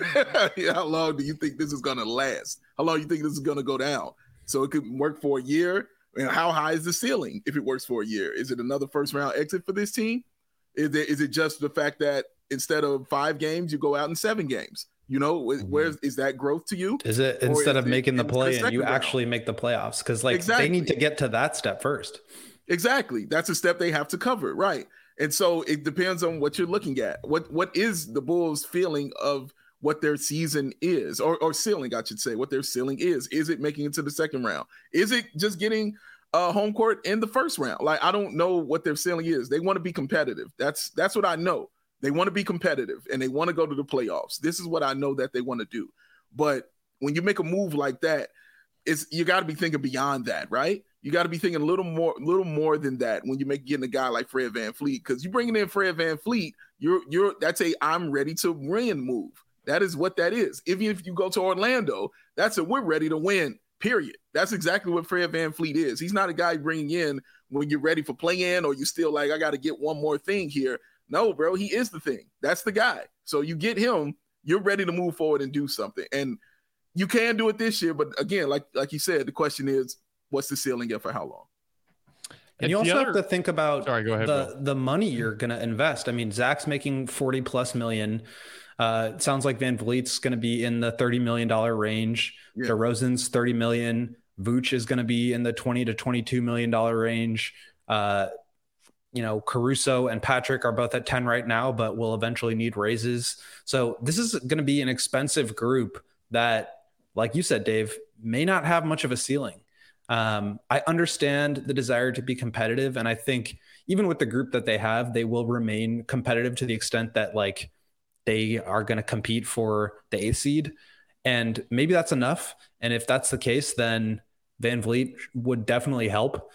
How long do you think this is gonna last? How long do you think this is gonna go down? So it could work for a year. And how high is the ceiling if it works for a year? Is it another first round exit for this team? Is it is it just the fact that instead of five games, you go out in seven games? You know, where's is that growth to you? Is it instead is of making it, the play and you round? actually make the playoffs? Because like exactly. they need to get to that step first. Exactly. That's a step they have to cover. Right. And so it depends on what you're looking at. What what is the Bulls' feeling of what their season is, or, or ceiling, I should say, what their ceiling is. Is it making it to the second round? Is it just getting uh, home court in the first round? Like, I don't know what their ceiling is. They want to be competitive. That's that's what I know. They want to be competitive, and they want to go to the playoffs. This is what I know that they want to do. But when you make a move like that, it's you got to be thinking beyond that, right? You got to be thinking a little more, little more than that when you make getting a guy like Fred Van Vliet, because you bringing in Fred Van Vliet, you're you're that's a I'm ready to win move. That is what that is. Even if you go to Orlando, that's a we're ready to win. Period. That's exactly what Fred Van Vliet is. He's not a guy bringing in when you're ready for play-in or you still like I got to get one more thing here. No, bro, he is the thing. That's the guy. So you get him, you're ready to move forward and do something. And you can do it this year, but again, like like you said, the question is, what's the ceiling and for how long? And you also other... have to think about Sorry, go ahead, the, the money you're going to invest. I mean, Zach's making forty plus million. Uh, it sounds like Van Vliet's going to be in the thirty million dollars range. Yeah. DeRozan's thirty million. Vooch is going to be in the twenty to twenty-two million dollars range. Uh, you know, Caruso and Patrick are both at ten right now, but will eventually need raises. So this is going to be an expensive group that, like you said, Dave, may not have much of a ceiling. Um, I understand the desire to be competitive. And I think even with the group that they have, they will remain competitive to the extent that like they are going to compete for the eighth seed. And maybe that's enough. And if that's the case, then Van Vliet would definitely help.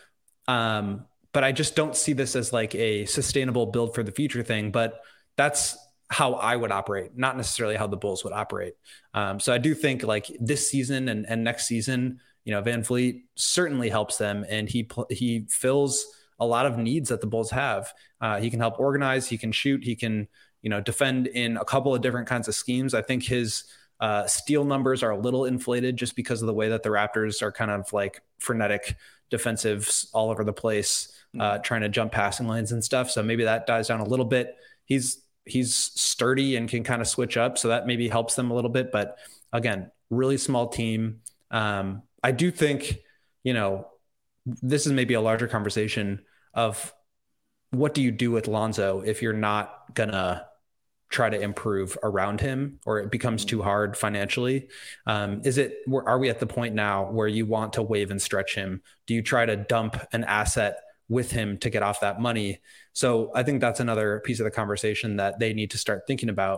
Um, but I just don't see this as like a sustainable build for the future thing. But that's how I would operate, not necessarily how the Bulls would operate. Um, so I do think like this season and, and next season, you know, Van Vliet certainly helps them, and he he fills a lot of needs that the Bulls have. Uh, he can help organize, he can shoot, he can, you know, defend in a couple of different kinds of schemes. I think his uh, steal numbers are a little inflated just because of the way that the Raptors are kind of like frenetic defensives all over the place, uh, trying to jump passing lanes and stuff. So maybe that dies down a little bit. He's he's sturdy and can kind of switch up, so that maybe helps them a little bit. But again, really small team. Um, I do think, you know, this is maybe a larger conversation of what do you do with Lonzo if you're not gonna try to improve around him, or it becomes too hard financially. Um, is it, are we at the point now where you want to waive and stretch him? Do you try to dump an asset with him to get off that money? So I think that's another piece of the conversation that they need to start thinking about.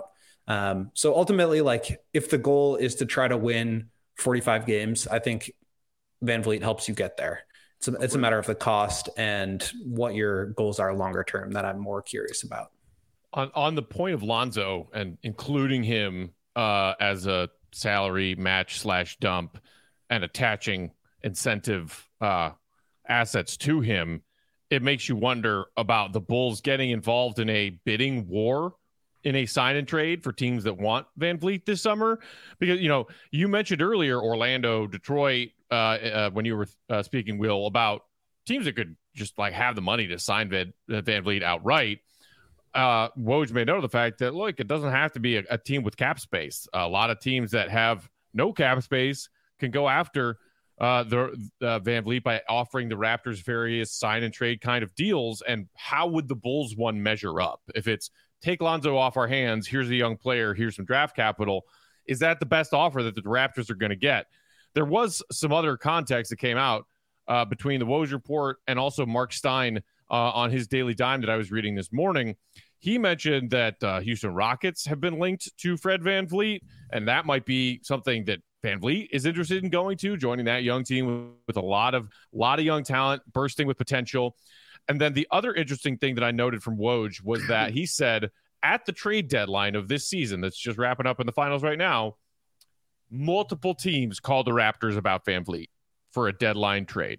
Um, so ultimately, like if the goal is to try to win forty-five games, I think Van Vliet helps you get there. It's a, it's a matter of the cost and what your goals are longer term that I'm more curious about. On on the point of Lonzo and including him uh, as a salary match slash dump and attaching incentive uh, assets to him, it makes you wonder about the Bulls getting involved in a bidding war in a sign and trade for teams that want Van Vliet this summer. Because, you know, you mentioned earlier Orlando, Detroit, uh, uh, when you were uh, speaking, Will, about teams that could just like have the money to sign Van, uh, Van Vliet outright. Uh, Woj made note of the fact that, look, it doesn't have to be a, a team with cap space. A lot of teams that have no cap space can go after uh, the uh, Van Vliet by offering the Raptors various sign and trade kind of deals. And how would the Bulls one measure up? If it's take Lonzo off our hands, here's a young player, here's some draft capital, is that the best offer that the Raptors are going to get? There was some other context that came out uh, between the Woj report and also Mark Stein uh, on his Daily Dime that I was reading this morning. He mentioned that uh, Houston Rockets have been linked to Fred Van Vliet, and that might be something that Van Vliet is interested in going to, joining that young team with a lot of lot of young talent, bursting with potential. And then the other interesting thing that I noted from Woj was that he said at the trade deadline of this season that's just wrapping up in the finals right now, multiple teams called the Raptors about Van Vliet for a deadline trade.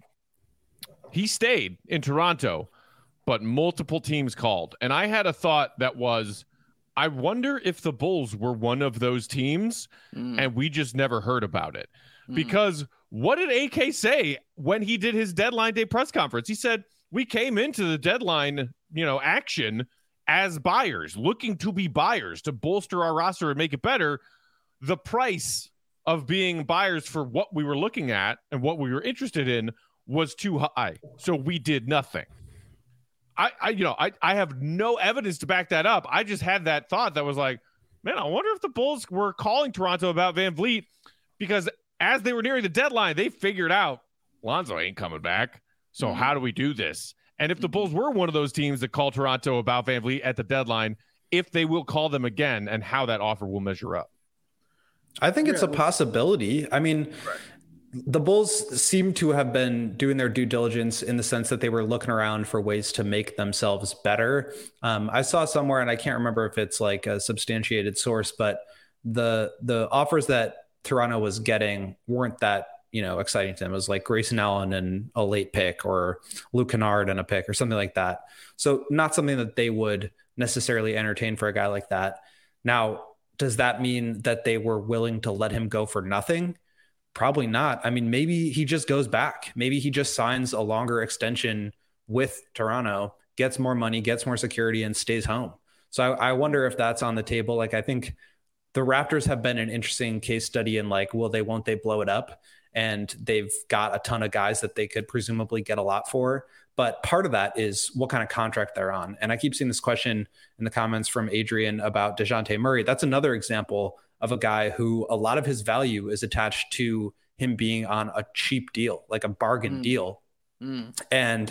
He stayed in Toronto, but multiple teams called. And I had a thought that was, I wonder if the Bulls were one of those teams mm. and we just never heard about it. Mm. Because what did A K say when he did his deadline day press conference? He said, we came into the deadline, you know, action as buyers, looking to be buyers to bolster our roster and make it better. The price of being buyers for what we were looking at and what we were interested in was too high. So we did nothing. I, I you know, I, I have no evidence to back that up. I just had that thought that was like, man, I wonder if the Bulls were calling Toronto about Van Vliet, because as they were nearing the deadline, they figured out Lonzo ain't coming back. So mm-hmm. how do we do this? And if the Bulls were one of those teams that call Toronto about Van Vliet at the deadline, if they will call them again and how that offer will measure up. I think it's a possibility. I mean, right. The Bulls seem to have been doing their due diligence in the sense that they were looking around for ways to make themselves better. Um, I saw somewhere, and I can't remember if it's like a substantiated source, but the the offers that Toronto was getting weren't that, you know, exciting to them. It was like Grayson Allen and a late pick, or Luke Kennard and a pick, or something like that. So not something that they would necessarily entertain for a guy like that. Now, does that mean that they were willing to let him go for nothing? Probably not. I mean, maybe he just goes back. Maybe he just signs a longer extension with Toronto, gets more money, gets more security, and stays home. So I, I wonder if that's on the table. Like, I think the Raptors have been an interesting case study in like, will they, won't they blow it up? And they've got a ton of guys that they could presumably get a lot for. But part of that is what kind of contract they're on. And I keep seeing this question in the comments from Adrian about DeJounte Murray. That's another example of a guy who a lot of his value is attached to him being on a cheap deal, like a bargain mm. deal. Mm. And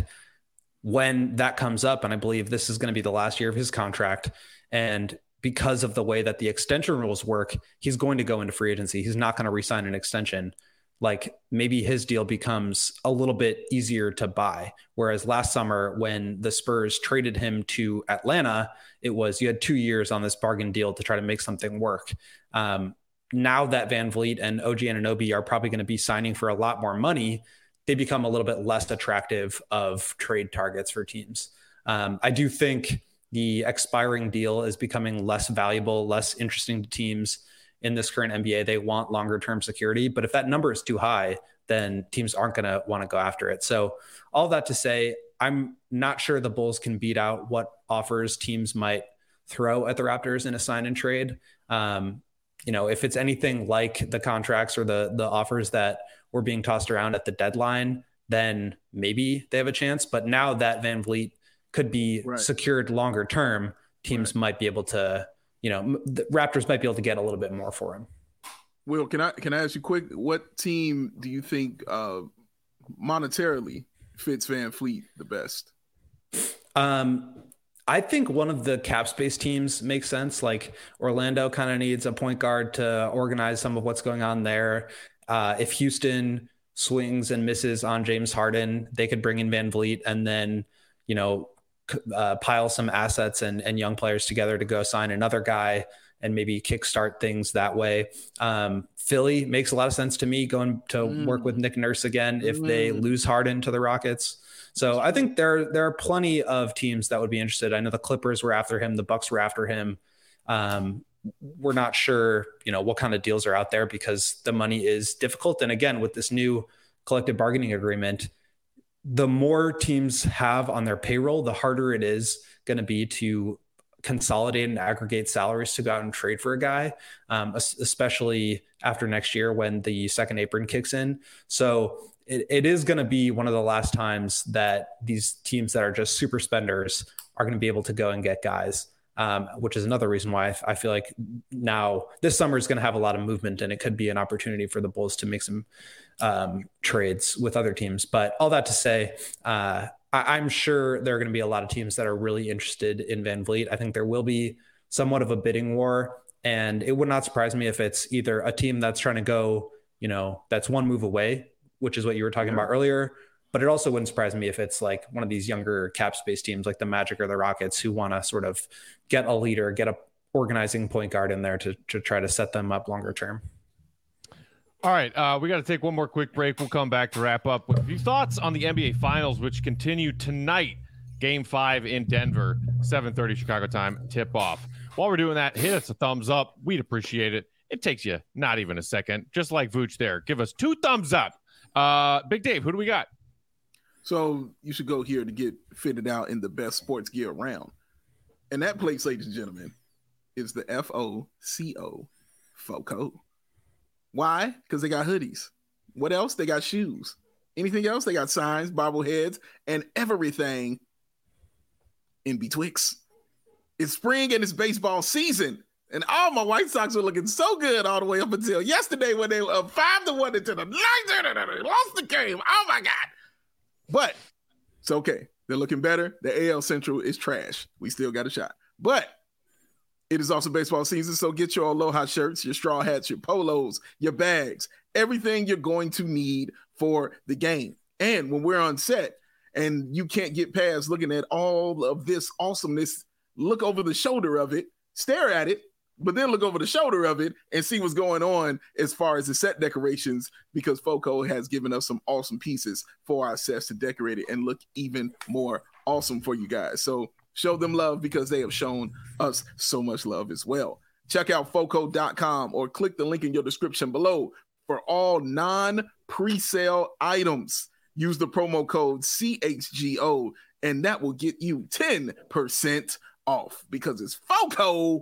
when that comes up, and I believe this is going to be the last year of his contract, and because of the way that the extension rules work, he's going to go into free agency. He's not going to re-sign an extension. Like, maybe his deal becomes a little bit easier to buy. Whereas last summer, when the Spurs traded him to Atlanta, it was, you had two years on this bargain deal to try to make something work. Um, now that Van Vliet and O G Anunoby are probably going to be signing for a lot more money, they become a little bit less attractive of trade targets for teams. Um, I do think the expiring deal is becoming less valuable, less interesting to teams in this current N B A. They want longer term security, but if that number is too high, then teams aren't going to want to go after it. So all that to say, I'm not sure the Bulls can beat out what offers teams might throw at the Raptors in a sign and trade. Um, you know, if it's anything like the contracts or the the offers that were being tossed around at the deadline, then maybe they have a chance. But now that Van Vliet could be right. secured longer term, teams right. might be able to, you know, the Raptors might be able to get a little bit more for him. Will, can I can I ask you quick? What team do you think uh, monetarily fits Van Vliet the best? Um, I think one of the cap space teams makes sense. Like Orlando kind of needs a point guard to organize some of what's going on there. Uh, if Houston swings and misses on James Harden, they could bring in Van Vliet and then, you know, uh, pile some assets and, and young players together to go sign another guy and maybe kickstart things that way. Um, Philly makes a lot of sense to me, going to mm. work with Nick Nurse again if mm. they lose Harden to the Rockets. So I think there, there are plenty of teams that would be interested. I know the Clippers were after him. The Bucks were after him. Um, we're not sure, you know, what kind of deals are out there because the money is difficult. And again, with this new collective bargaining agreement, the more teams have on their payroll, the harder it is going to be to consolidate and aggregate salaries to go out and trade for a guy, um, especially after next year when the second apron kicks in. So it, it is going to be one of the last times that these teams that are just super spenders are going to be able to go and get guys, um, which is another reason why I, I feel like now this summer is going to have a lot of movement and it could be an opportunity for the Bulls to make some um, trades with other teams. But all that to say, uh, I, I'm sure there are going to be a lot of teams that are really interested in Van Vliet. I think there will be somewhat of a bidding war, and it would not surprise me if it's either a team that's trying to go, you know, that's one move away, which is what you were talking about earlier. But it also wouldn't surprise me if it's like one of these younger cap space teams like the Magic or the Rockets who want to sort of get a leader, get a organizing point guard in there to, to try to set them up longer term. All right, uh, we got to take one more quick break. We'll come back to wrap up with a few thoughts on the N B A Finals, which continue tonight. Game five in Denver, seven thirty Chicago time, tip off. While we're doing that, hit us a thumbs up. We'd appreciate it. It takes you not even a second, just like Vooch there. Give us two thumbs up. Uh, Big Dave, who do we got? So you should go here to get fitted out in the best sports gear around. And that place, ladies and gentlemen, is the F O C O, FOCO. Why? Because they got hoodies. What else? They got shoes. Anything else? They got signs, bobbleheads, and everything in betwixt. It's spring and it's baseball season. And all my White Sox were looking so good all the way up until yesterday when they were up five to one into the ninth. They lost the game. Oh, my God. But it's okay. They're looking better. The A L Central is trash. We still got a shot. But it is also baseball season, so get your Aloha shirts, your straw hats, your polos, your bags, everything you're going to need for the game. And when we're on set and you can't get past looking at all of this awesomeness, look over the shoulder of it, stare at it, but then look over the shoulder of it and see what's going on as far as the set decorations, because FOCO has given us some awesome pieces for our sets to decorate it and look even more awesome for you guys. So show them love because they have shown us so much love as well. Check out foco dot com or click the link in your description below for all non-presale items. Use the promo code C H G O and that will get you ten percent off because it's FOCO.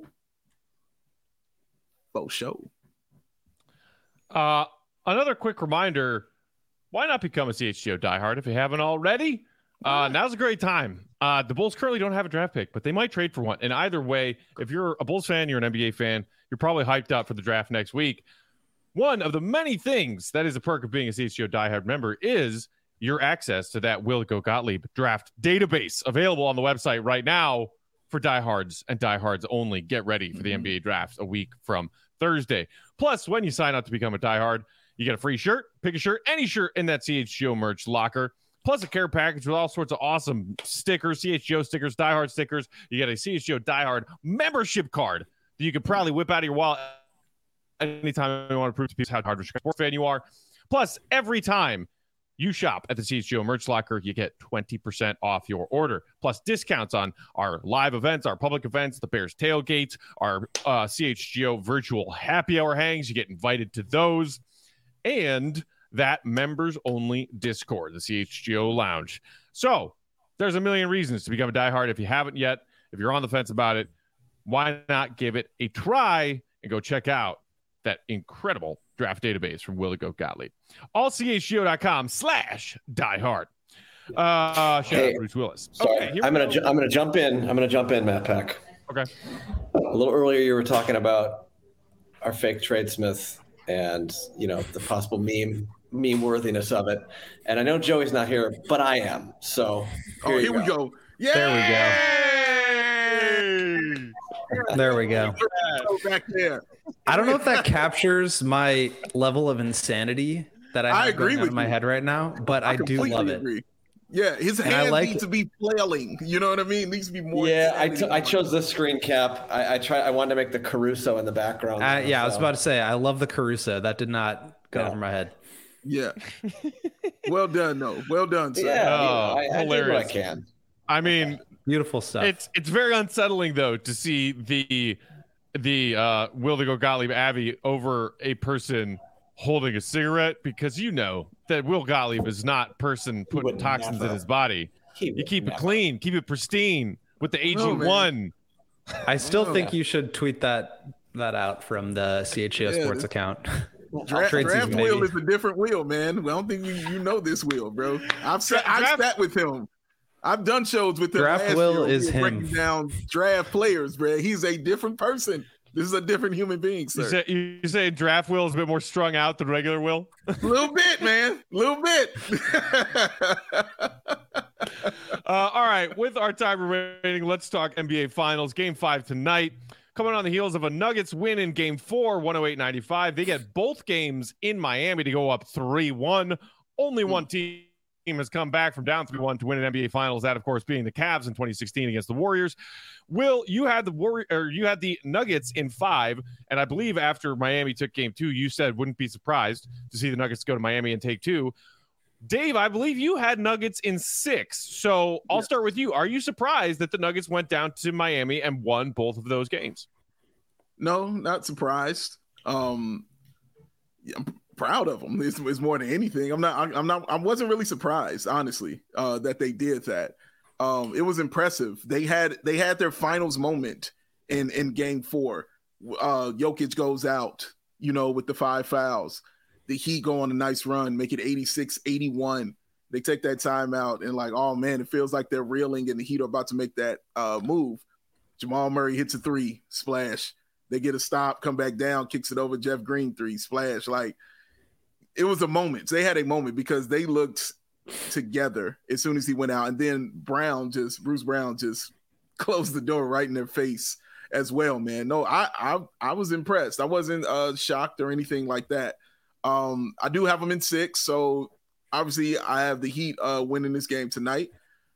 Faux show. Uh, another quick reminder, why not become a C H G O diehard if you haven't already? Uh, now's a great time. Uh, the Bulls currently don't have a draft pick, but they might trade for one. And either way, if you're a Bulls fan, you're an N B A fan, you're probably hyped up for the draft next week. One of the many things that is a perk of being a C H G O diehard member is your access to that Will Go Gottlieb draft database available on the website right now for diehards and diehards only. Get ready for the mm-hmm. N B A draft a week from Thursday. Plus, when you sign up to become a diehard, you get a free shirt, pick a shirt, any shirt in that C H G O merch locker. Plus a care package with all sorts of awesome stickers, C H G O stickers, diehard stickers. You get a C H G O diehard membership card that you can proudly whip out of your wallet anytime you want to prove to people how hard of a sports fan you are. Plus, every time you shop at the C H G O merch locker, you get twenty percent off your order. Plus discounts on our live events, our public events, the Bears tailgates, our uh, C H G O virtual happy hour hangs. You get invited to those. And that members-only Discord, the C H G O Lounge. So there's a million reasons to become a diehard. If you haven't yet, if you're on the fence about it, why not give it a try and go check out that incredible draft database from Will Go Gottlieb. all C H G O dot com slash diehard. Uh, shout hey, out Bruce Willis. Sorry, okay, I'm gonna ju- I'm gonna jump in. I'm gonna jump in, Matt Peck. Okay. A little earlier, you were talking about our fake tradesmith and you know the possible meme meme worthiness of it. And I know Joey's not here, but I am. So here, oh, here go. we go. Yeah, there we go. There we go. Back there. I don't know if that captures my level of insanity that I, have I agree going on with in my you. head right now, but I, I do love it. Agree. Yeah, his and hands like need to be flailing. You know what I mean? It needs to be more. Yeah, I, t- I chose this screen cap. I, I try. I wanted to make the Caruso in the background. Uh, yeah, so. I was about to say I love the Caruso. That did not go no. over my head. Yeah. Well done, though. Well done, sir. Yeah, oh, I, I hilarious. did what I can. I mean, beautiful stuff. It's it's very unsettling though to see the the uh, Will the Go Gottlieb Abbey over a person holding a cigarette, because you know that Will Gottlieb is not person putting toxins never. in his body. You keep never. it clean, keep it pristine with the A G one. No, I still think you should tweet that that out from the C H G O yeah, Sports account. Draft, draft Will is a different Will, man. I don't think you, you know this Will, bro. I've sat, I've sat with him. I've done shows with him. Draft last Will year. is him. Breaking down draft players, bro. He's a different person. This is a different human being, sir. You say, you say Draft Will is a bit more strung out than regular Will? A little bit, man. A little bit. uh, all right. With our time remaining, let's talk N B A Finals. Game five tonight. Coming on the heels of a Nuggets win in game four, one oh eight ninety-five. They get both games in Miami to go up three one. Only one team has come back from down three one to win an N B A Finals. That, of course, being the Cavs in twenty sixteen against the Warriors. Will, you had the Warrior, or you had the Nuggets in five, and I believe after Miami took game two, you said wouldn't be surprised to see the Nuggets go to Miami and take two. Dave, I believe you had Nuggets in six. So I'll yeah. start with you. Are you surprised that the Nuggets went down to Miami and won both of those games? No, not surprised. Um, yeah, I'm proud of them. It's, it's more than anything. I'm not. I'm not. I wasn't really surprised, honestly, uh, that they did that. Um, it was impressive. They had they had their finals moment in in game four. Uh, Jokic goes out, you know, with the five fouls. The Heat go on a nice run, make it eighty-six eighty-one. They take that timeout and like, oh man, it feels like they're reeling and the Heat are about to make that uh, move. Jamal Murray hits a three, splash. They get a stop, come back down, kicks it over. Jeff Green three, splash. Like, it was a moment. They had a moment because they looked together as soon as he went out. And then Brown just, Bruce Brown just closed the door right in their face as well, man. No, I I, I was impressed. I wasn't uh, shocked or anything like that. Um, I do have them in six, so obviously I have the Heat uh, winning this game tonight.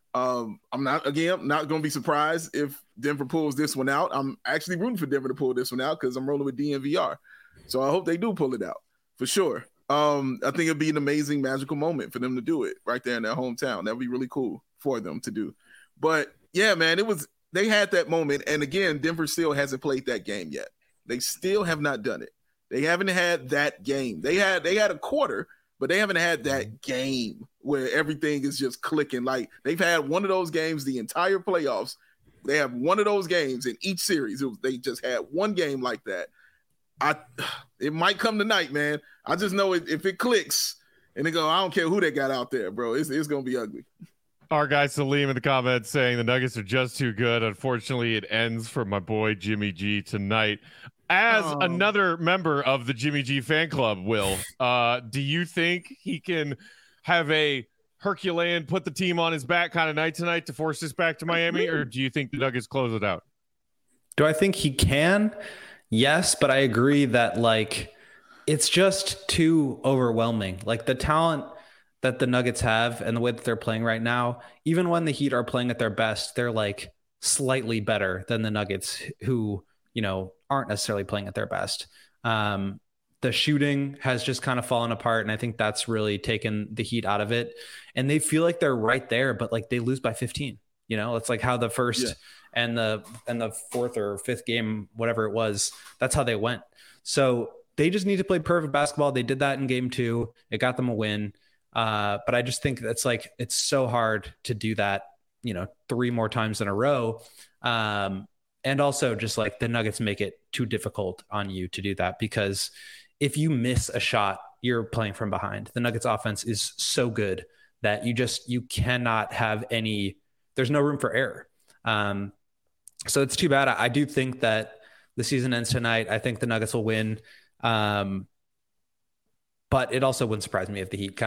Um, I'm not, again, not going to be surprised if Denver pulls this one out. I'm actually rooting for Denver to pull this one out because I'm rolling with D N V R. So I hope they do pull it out for sure. Um, I think it'd be an amazing, magical moment for them to do it right there in their hometown. That would be really cool for them to do. But yeah, man, it was, they had that moment. And again, Denver still hasn't played that game yet. They still have not done it. They haven't had that game. They had, they had a quarter, but they haven't had that game where everything is just clicking. Like, they've had one of those games the entire playoffs. They have one of those games in each series. It was, they just had one game like that. I, it might come tonight, man. I just know it, if it clicks and they go, I don't care who they got out there, bro. It's, it's going to be ugly. Our guy Salim in the comments saying the Nuggets are just too good. Unfortunately, it ends for my boy Jimmy G tonight. As oh. another member of the Jimmy G fan club, Will, uh, do you think he can have a Herculean put the team on his back kind of night tonight to force this back to Miami, or do you think the Nuggets close it out? Do I think he can? Yes, but I agree that like it's just too overwhelming. Like the talent that the Nuggets have and the way that they're playing right now, even when the Heat are playing at their best, they're like slightly better than the Nuggets, who, you know, aren't necessarily playing at their best. Um, the shooting has just kind of fallen apart, and I think that's really taken the Heat out of it. And they feel like they're right there, but like they lose by fifteen. You know, it's like how the first yeah. and the and the fourth or fifth game, whatever it was, that's how they went. So they just need to play perfect basketball. They did that in game two. It got them a win. Uh, but I just think that's like, it's so hard to do that, you know, three more times in a row. Um, and also just like the Nuggets make it too difficult on you to do that, because if you miss a shot, you're playing from behind. The Nuggets offense is so good that you just, you cannot have any, there's no room for error. Um, so it's too bad. I, I do think that the season ends tonight. I think the Nuggets will win. Um, but it also wouldn't surprise me if the Heat kind of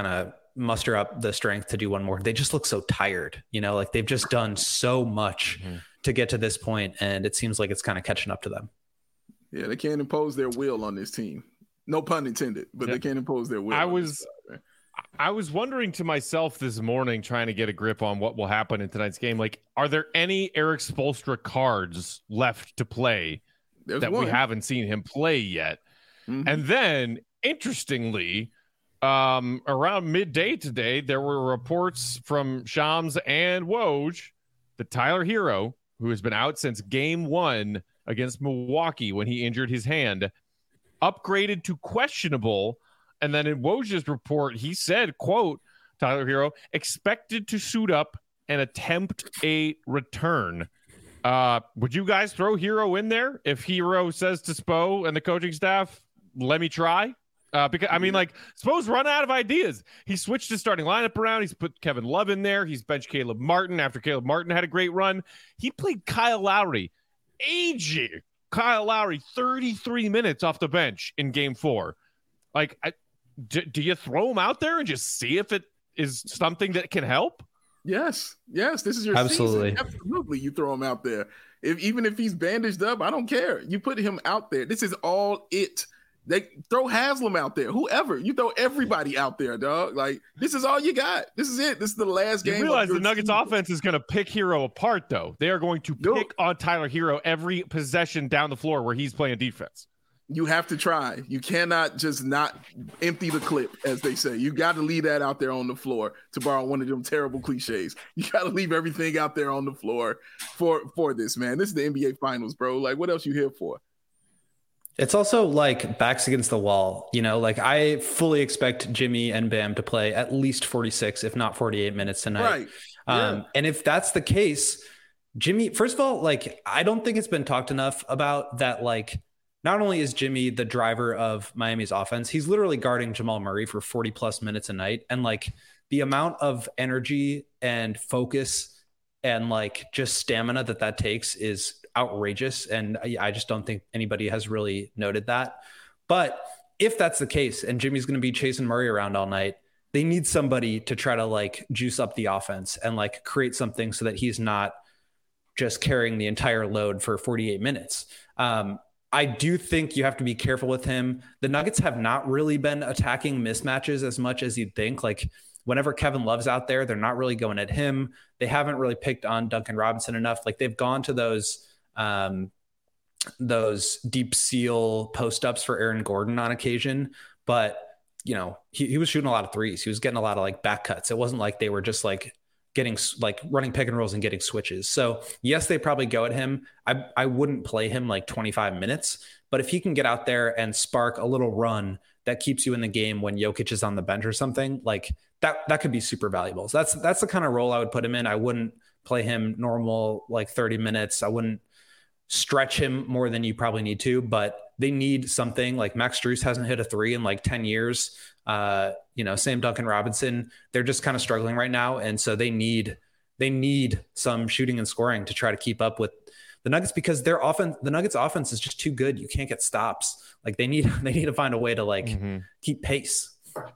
muster up the strength to do one more. They just look so tired, you know, like they've just done so much mm-hmm. to get to this point, and it seems like it's kind of catching up to them. Yeah, they can't impose their will on this team. No pun intended, but yeah. they can't impose their will. I was side, I was wondering to myself this morning, trying to get a grip on what will happen in tonight's game. Like, are there any Erik Spoelstra cards left to play There's that one. we haven't seen him play yet? Mm-hmm. And then, interestingly, um, around midday today, there were reports from Shams and Woj that Tyler Hero, who has been out since game one against Milwaukee when he injured his hand, upgraded to questionable. And then in Woj's report, he said, quote, Tyler Hero expected to suit up and attempt a return. Uh, would you guys throw Hero in there if Hero says to Spo and the coaching staff, let me try? Uh, because I mean, like, Spo's run out of ideas. He switched his starting lineup around. He's put Kevin Love in there. He's benched Caleb Martin after Caleb Martin had a great run. He played Kyle Lowry, aging Kyle Lowry, thirty-three minutes off the bench in game four. Like, I, do, do you throw him out there and just see if it is something that can help? Yes, yes. This is your absolutely, season. Absolutely. You throw him out there. If even if he's bandaged up, I don't care. You put him out there. This is all it. They throw Haslam out there. Whoever you throw, everybody out there, dog. Like, this is all you got. This is it. This is the last game. You realize the Nuggets season. Offense is going to pick Hero apart, though. They are going to pick Dude. on Tyler Hero every possession down the floor where he's playing defense. You have to try. You cannot just not empty the clip, as they say. You got to leave that out there on the floor, to borrow one of them terrible cliches. You got to leave everything out there on the floor for for this, man. This is the N B A Finals, bro. Like, what else you here for? It's also like backs against the wall, you know, like I fully expect Jimmy and Bam to play at least forty-six, if not forty-eight minutes tonight. Right. Yeah. Um, and if that's the case, Jimmy, first of all, like, I don't think it's been talked enough about that. Like, not only is Jimmy the driver of Miami's offense, he's literally guarding Jamal Murray for forty plus minutes a night. And like the amount of energy and focus and like just stamina that that takes is outrageous. And I, I just don't think anybody has really noted that. But if that's the case and Jimmy's going to be chasing Murray around all night, they need somebody to try to like juice up the offense and like create something so that he's not just carrying the entire load for forty-eight minutes. Um, I do think you have to be careful with him. The Nuggets have not really been attacking mismatches as much as you'd think. Like, whenever Kevin Love's out there, they're not really going at him. They haven't really picked on Duncan Robinson enough. Like, they've gone to those um, those deep seal post ups for Aaron Gordon on occasion, but you know, he, he was shooting a lot of threes. He was getting a lot of like back cuts. It wasn't like they were just like getting like running pick and rolls and getting switches. So yes, they probably go at him. I I wouldn't play him like twenty-five minutes, but if he can get out there and spark a little run that keeps you in the game when Jokic is on the bench or something, like that, that could be super valuable. So that's, that's the kind of role I would put him in. I wouldn't play him normal, like thirty minutes. I wouldn't stretch him more than you probably need to, but they need something. Like Max Strus hasn't hit a three in like ten years. Uh, you know, same Duncan Robinson. They're just kind of struggling right now. And so they need, they need some shooting and scoring to try to keep up with the Nuggets, because their offense, the Nuggets offense is just too good. You can't get stops. Like they need, they need to find a way to like mm-hmm. keep pace.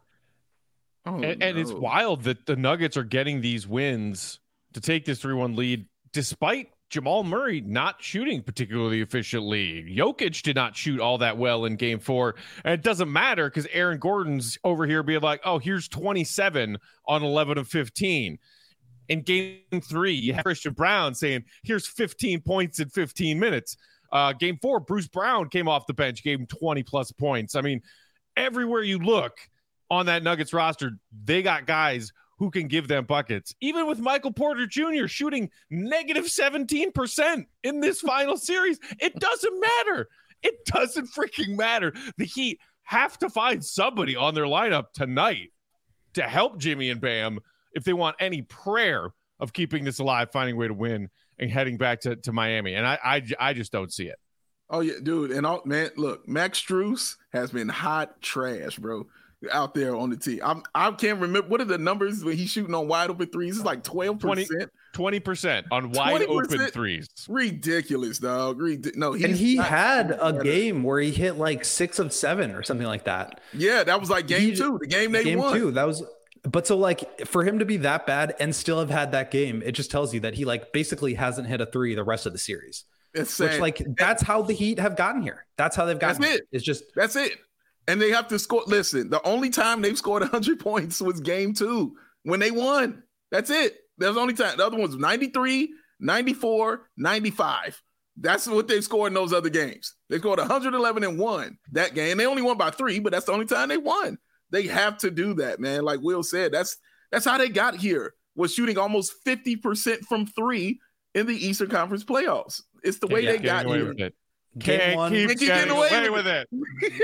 Oh, and, and no. It's wild that the Nuggets are getting these wins to take this three one lead, despite Jamal Murray not shooting particularly efficiently. Jokic did not shoot all that well in game four. And it doesn't matter because Aaron Gordon's over here being like, oh, here's twenty-seven on eleven of fifteen. In game three, you have Christian Brown saying, here's fifteen points in fifteen minutes. Uh, game four, Bruce Brown came off the bench, gave him twenty plus points. I mean, everywhere you look on that Nuggets roster, they got guys who can give them buckets. Even with Michael Porter Junior shooting negative seventeen percent in this final series, it doesn't matter. It doesn't freaking matter. The Heat have to find somebody on their lineup tonight to help Jimmy and Bam if they want any prayer of keeping this alive, finding a way to win and heading back to, to Miami. And I, I, I just don't see it. Oh, yeah, dude. And all, man, look, Max Strus has been hot trash, bro, out there on the team. I'm, I can't remember. What are the numbers when he's shooting on wide open threes? It's like twelve percent. twenty percent on wide open threes. Ridiculous, dog. Rid- no, and he had a better. game where he hit like six of seven or something like that. Yeah, that was like game he, two, the game they game won. Game two, that was But so like for him to be that bad and still have had that game, it just tells you that he like basically hasn't hit a three the rest of the series. It's which like that's how the Heat have gotten here. That's how they've gotten that's here. it. It's just that's it. And they have to score. Listen, the only time they've scored one hundred points was game two when they won. That's it. That was the only time. The other one was ninety-three, ninety-four, ninety-five. That's what they've scored in those other games. They scored one hundred eleven and one that game. They only won by three, but that's the only time they won. They have to do that, man. Like Will said, that's that's how they got here, was shooting almost fifty percent from three in the Eastern Conference playoffs. It's the way yeah, they got here. Can't Game one, keep getting, getting away, away with it.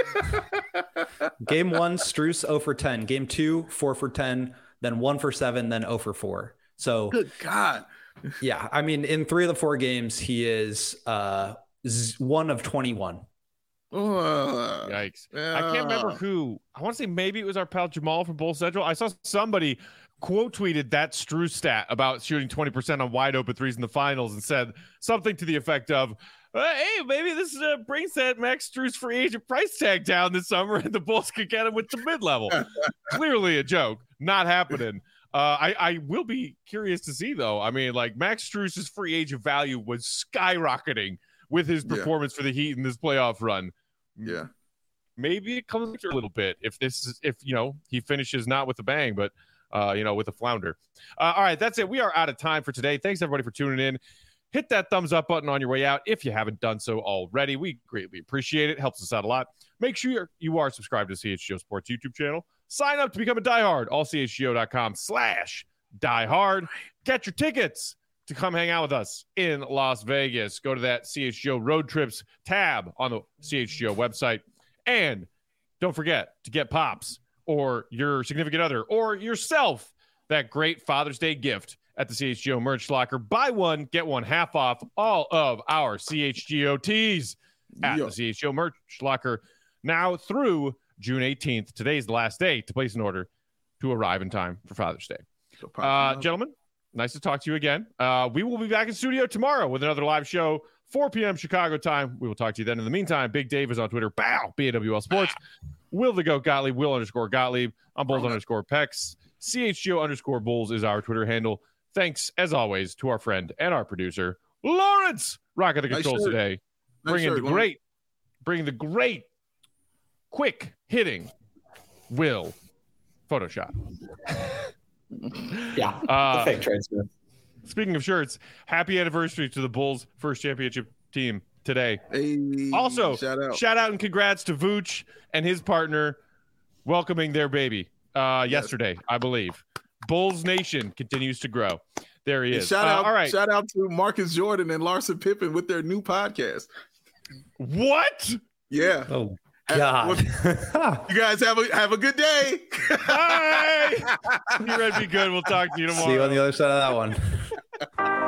Game one, Strus zero for ten. Game two, four for ten. Then one for seven. Then zero for four. So good God. Yeah, I mean, in three of the four games, he is uh, one of twenty-one. Uh, Yikes. Uh, I can't remember who. I want to say maybe it was our pal Jamal from Bull Central. I saw somebody quote tweeted that Strus stat about shooting twenty percent on wide open threes in the finals and said something to the effect of, hey, maybe this uh, brings that Max Strus free agent price tag down this summer and the Bulls could get him with the mid-level. Clearly a joke. Not happening. Uh, I, I will be curious to see, though. I mean, like, Max Strus's free agent value was skyrocketing with his performance yeah. for the Heat in this playoff run. Yeah. Maybe it comes a little bit if this is, if, you know, he finishes not with a bang, but, uh, you know, with a flounder. Uh, all right, that's it. We are out of time for today. Thanks, everybody, for tuning in. Hit that thumbs up button on your way out if you haven't done so already. We greatly appreciate it. Helps us out a lot. Make sure you are subscribed to C H G O Sports YouTube channel. Sign up to become a diehard. all c h g o dot com slash diehard. Get your tickets to come hang out with us in Las Vegas. Go to that C H G O Road Trips tab on the C H G O website. And don't forget to get Pops or your significant other or yourself that great Father's Day gift at the C H G O merch locker. Buy one, get one half off all of our C H G O tees at Yo. the C H G O merch locker now through June eighteenth. Today's the last day to place an order to arrive in time for Father's Day. So uh, gentlemen, nice to talk to you again. Uh, we will be back in studio tomorrow with another live show, four p.m. Chicago time. We will talk to you then. In the meantime, Big Dave is on Twitter. Bow, B A W L Sports. Will the Goat Gottlieb, Will underscore Gottlieb. I'm Bulls underscore Pex. C H G O underscore Bulls is our Twitter handle. Thanks, as always, to our friend and our producer, Lawrence, rocking the controls nice today. Nice bringing shirt, the great, bringing the great, quick hitting Will Photoshop. Yeah, uh, the fake trade smith. Speaking of shirts, happy anniversary to the Bulls' first championship team today. Hey, also, shout out. shout out and congrats to Vooch and his partner welcoming their baby uh, yes. yesterday, I believe. Bulls Nation continues to grow. There he is. Shout out, uh, all right. Shout out to Marcus Jordan and Larson Pippen with their new podcast. What? Yeah. Oh God. You guys have a have a good day. Bye. You ready to be good? We'll talk to you tomorrow. See you on the other side of that one.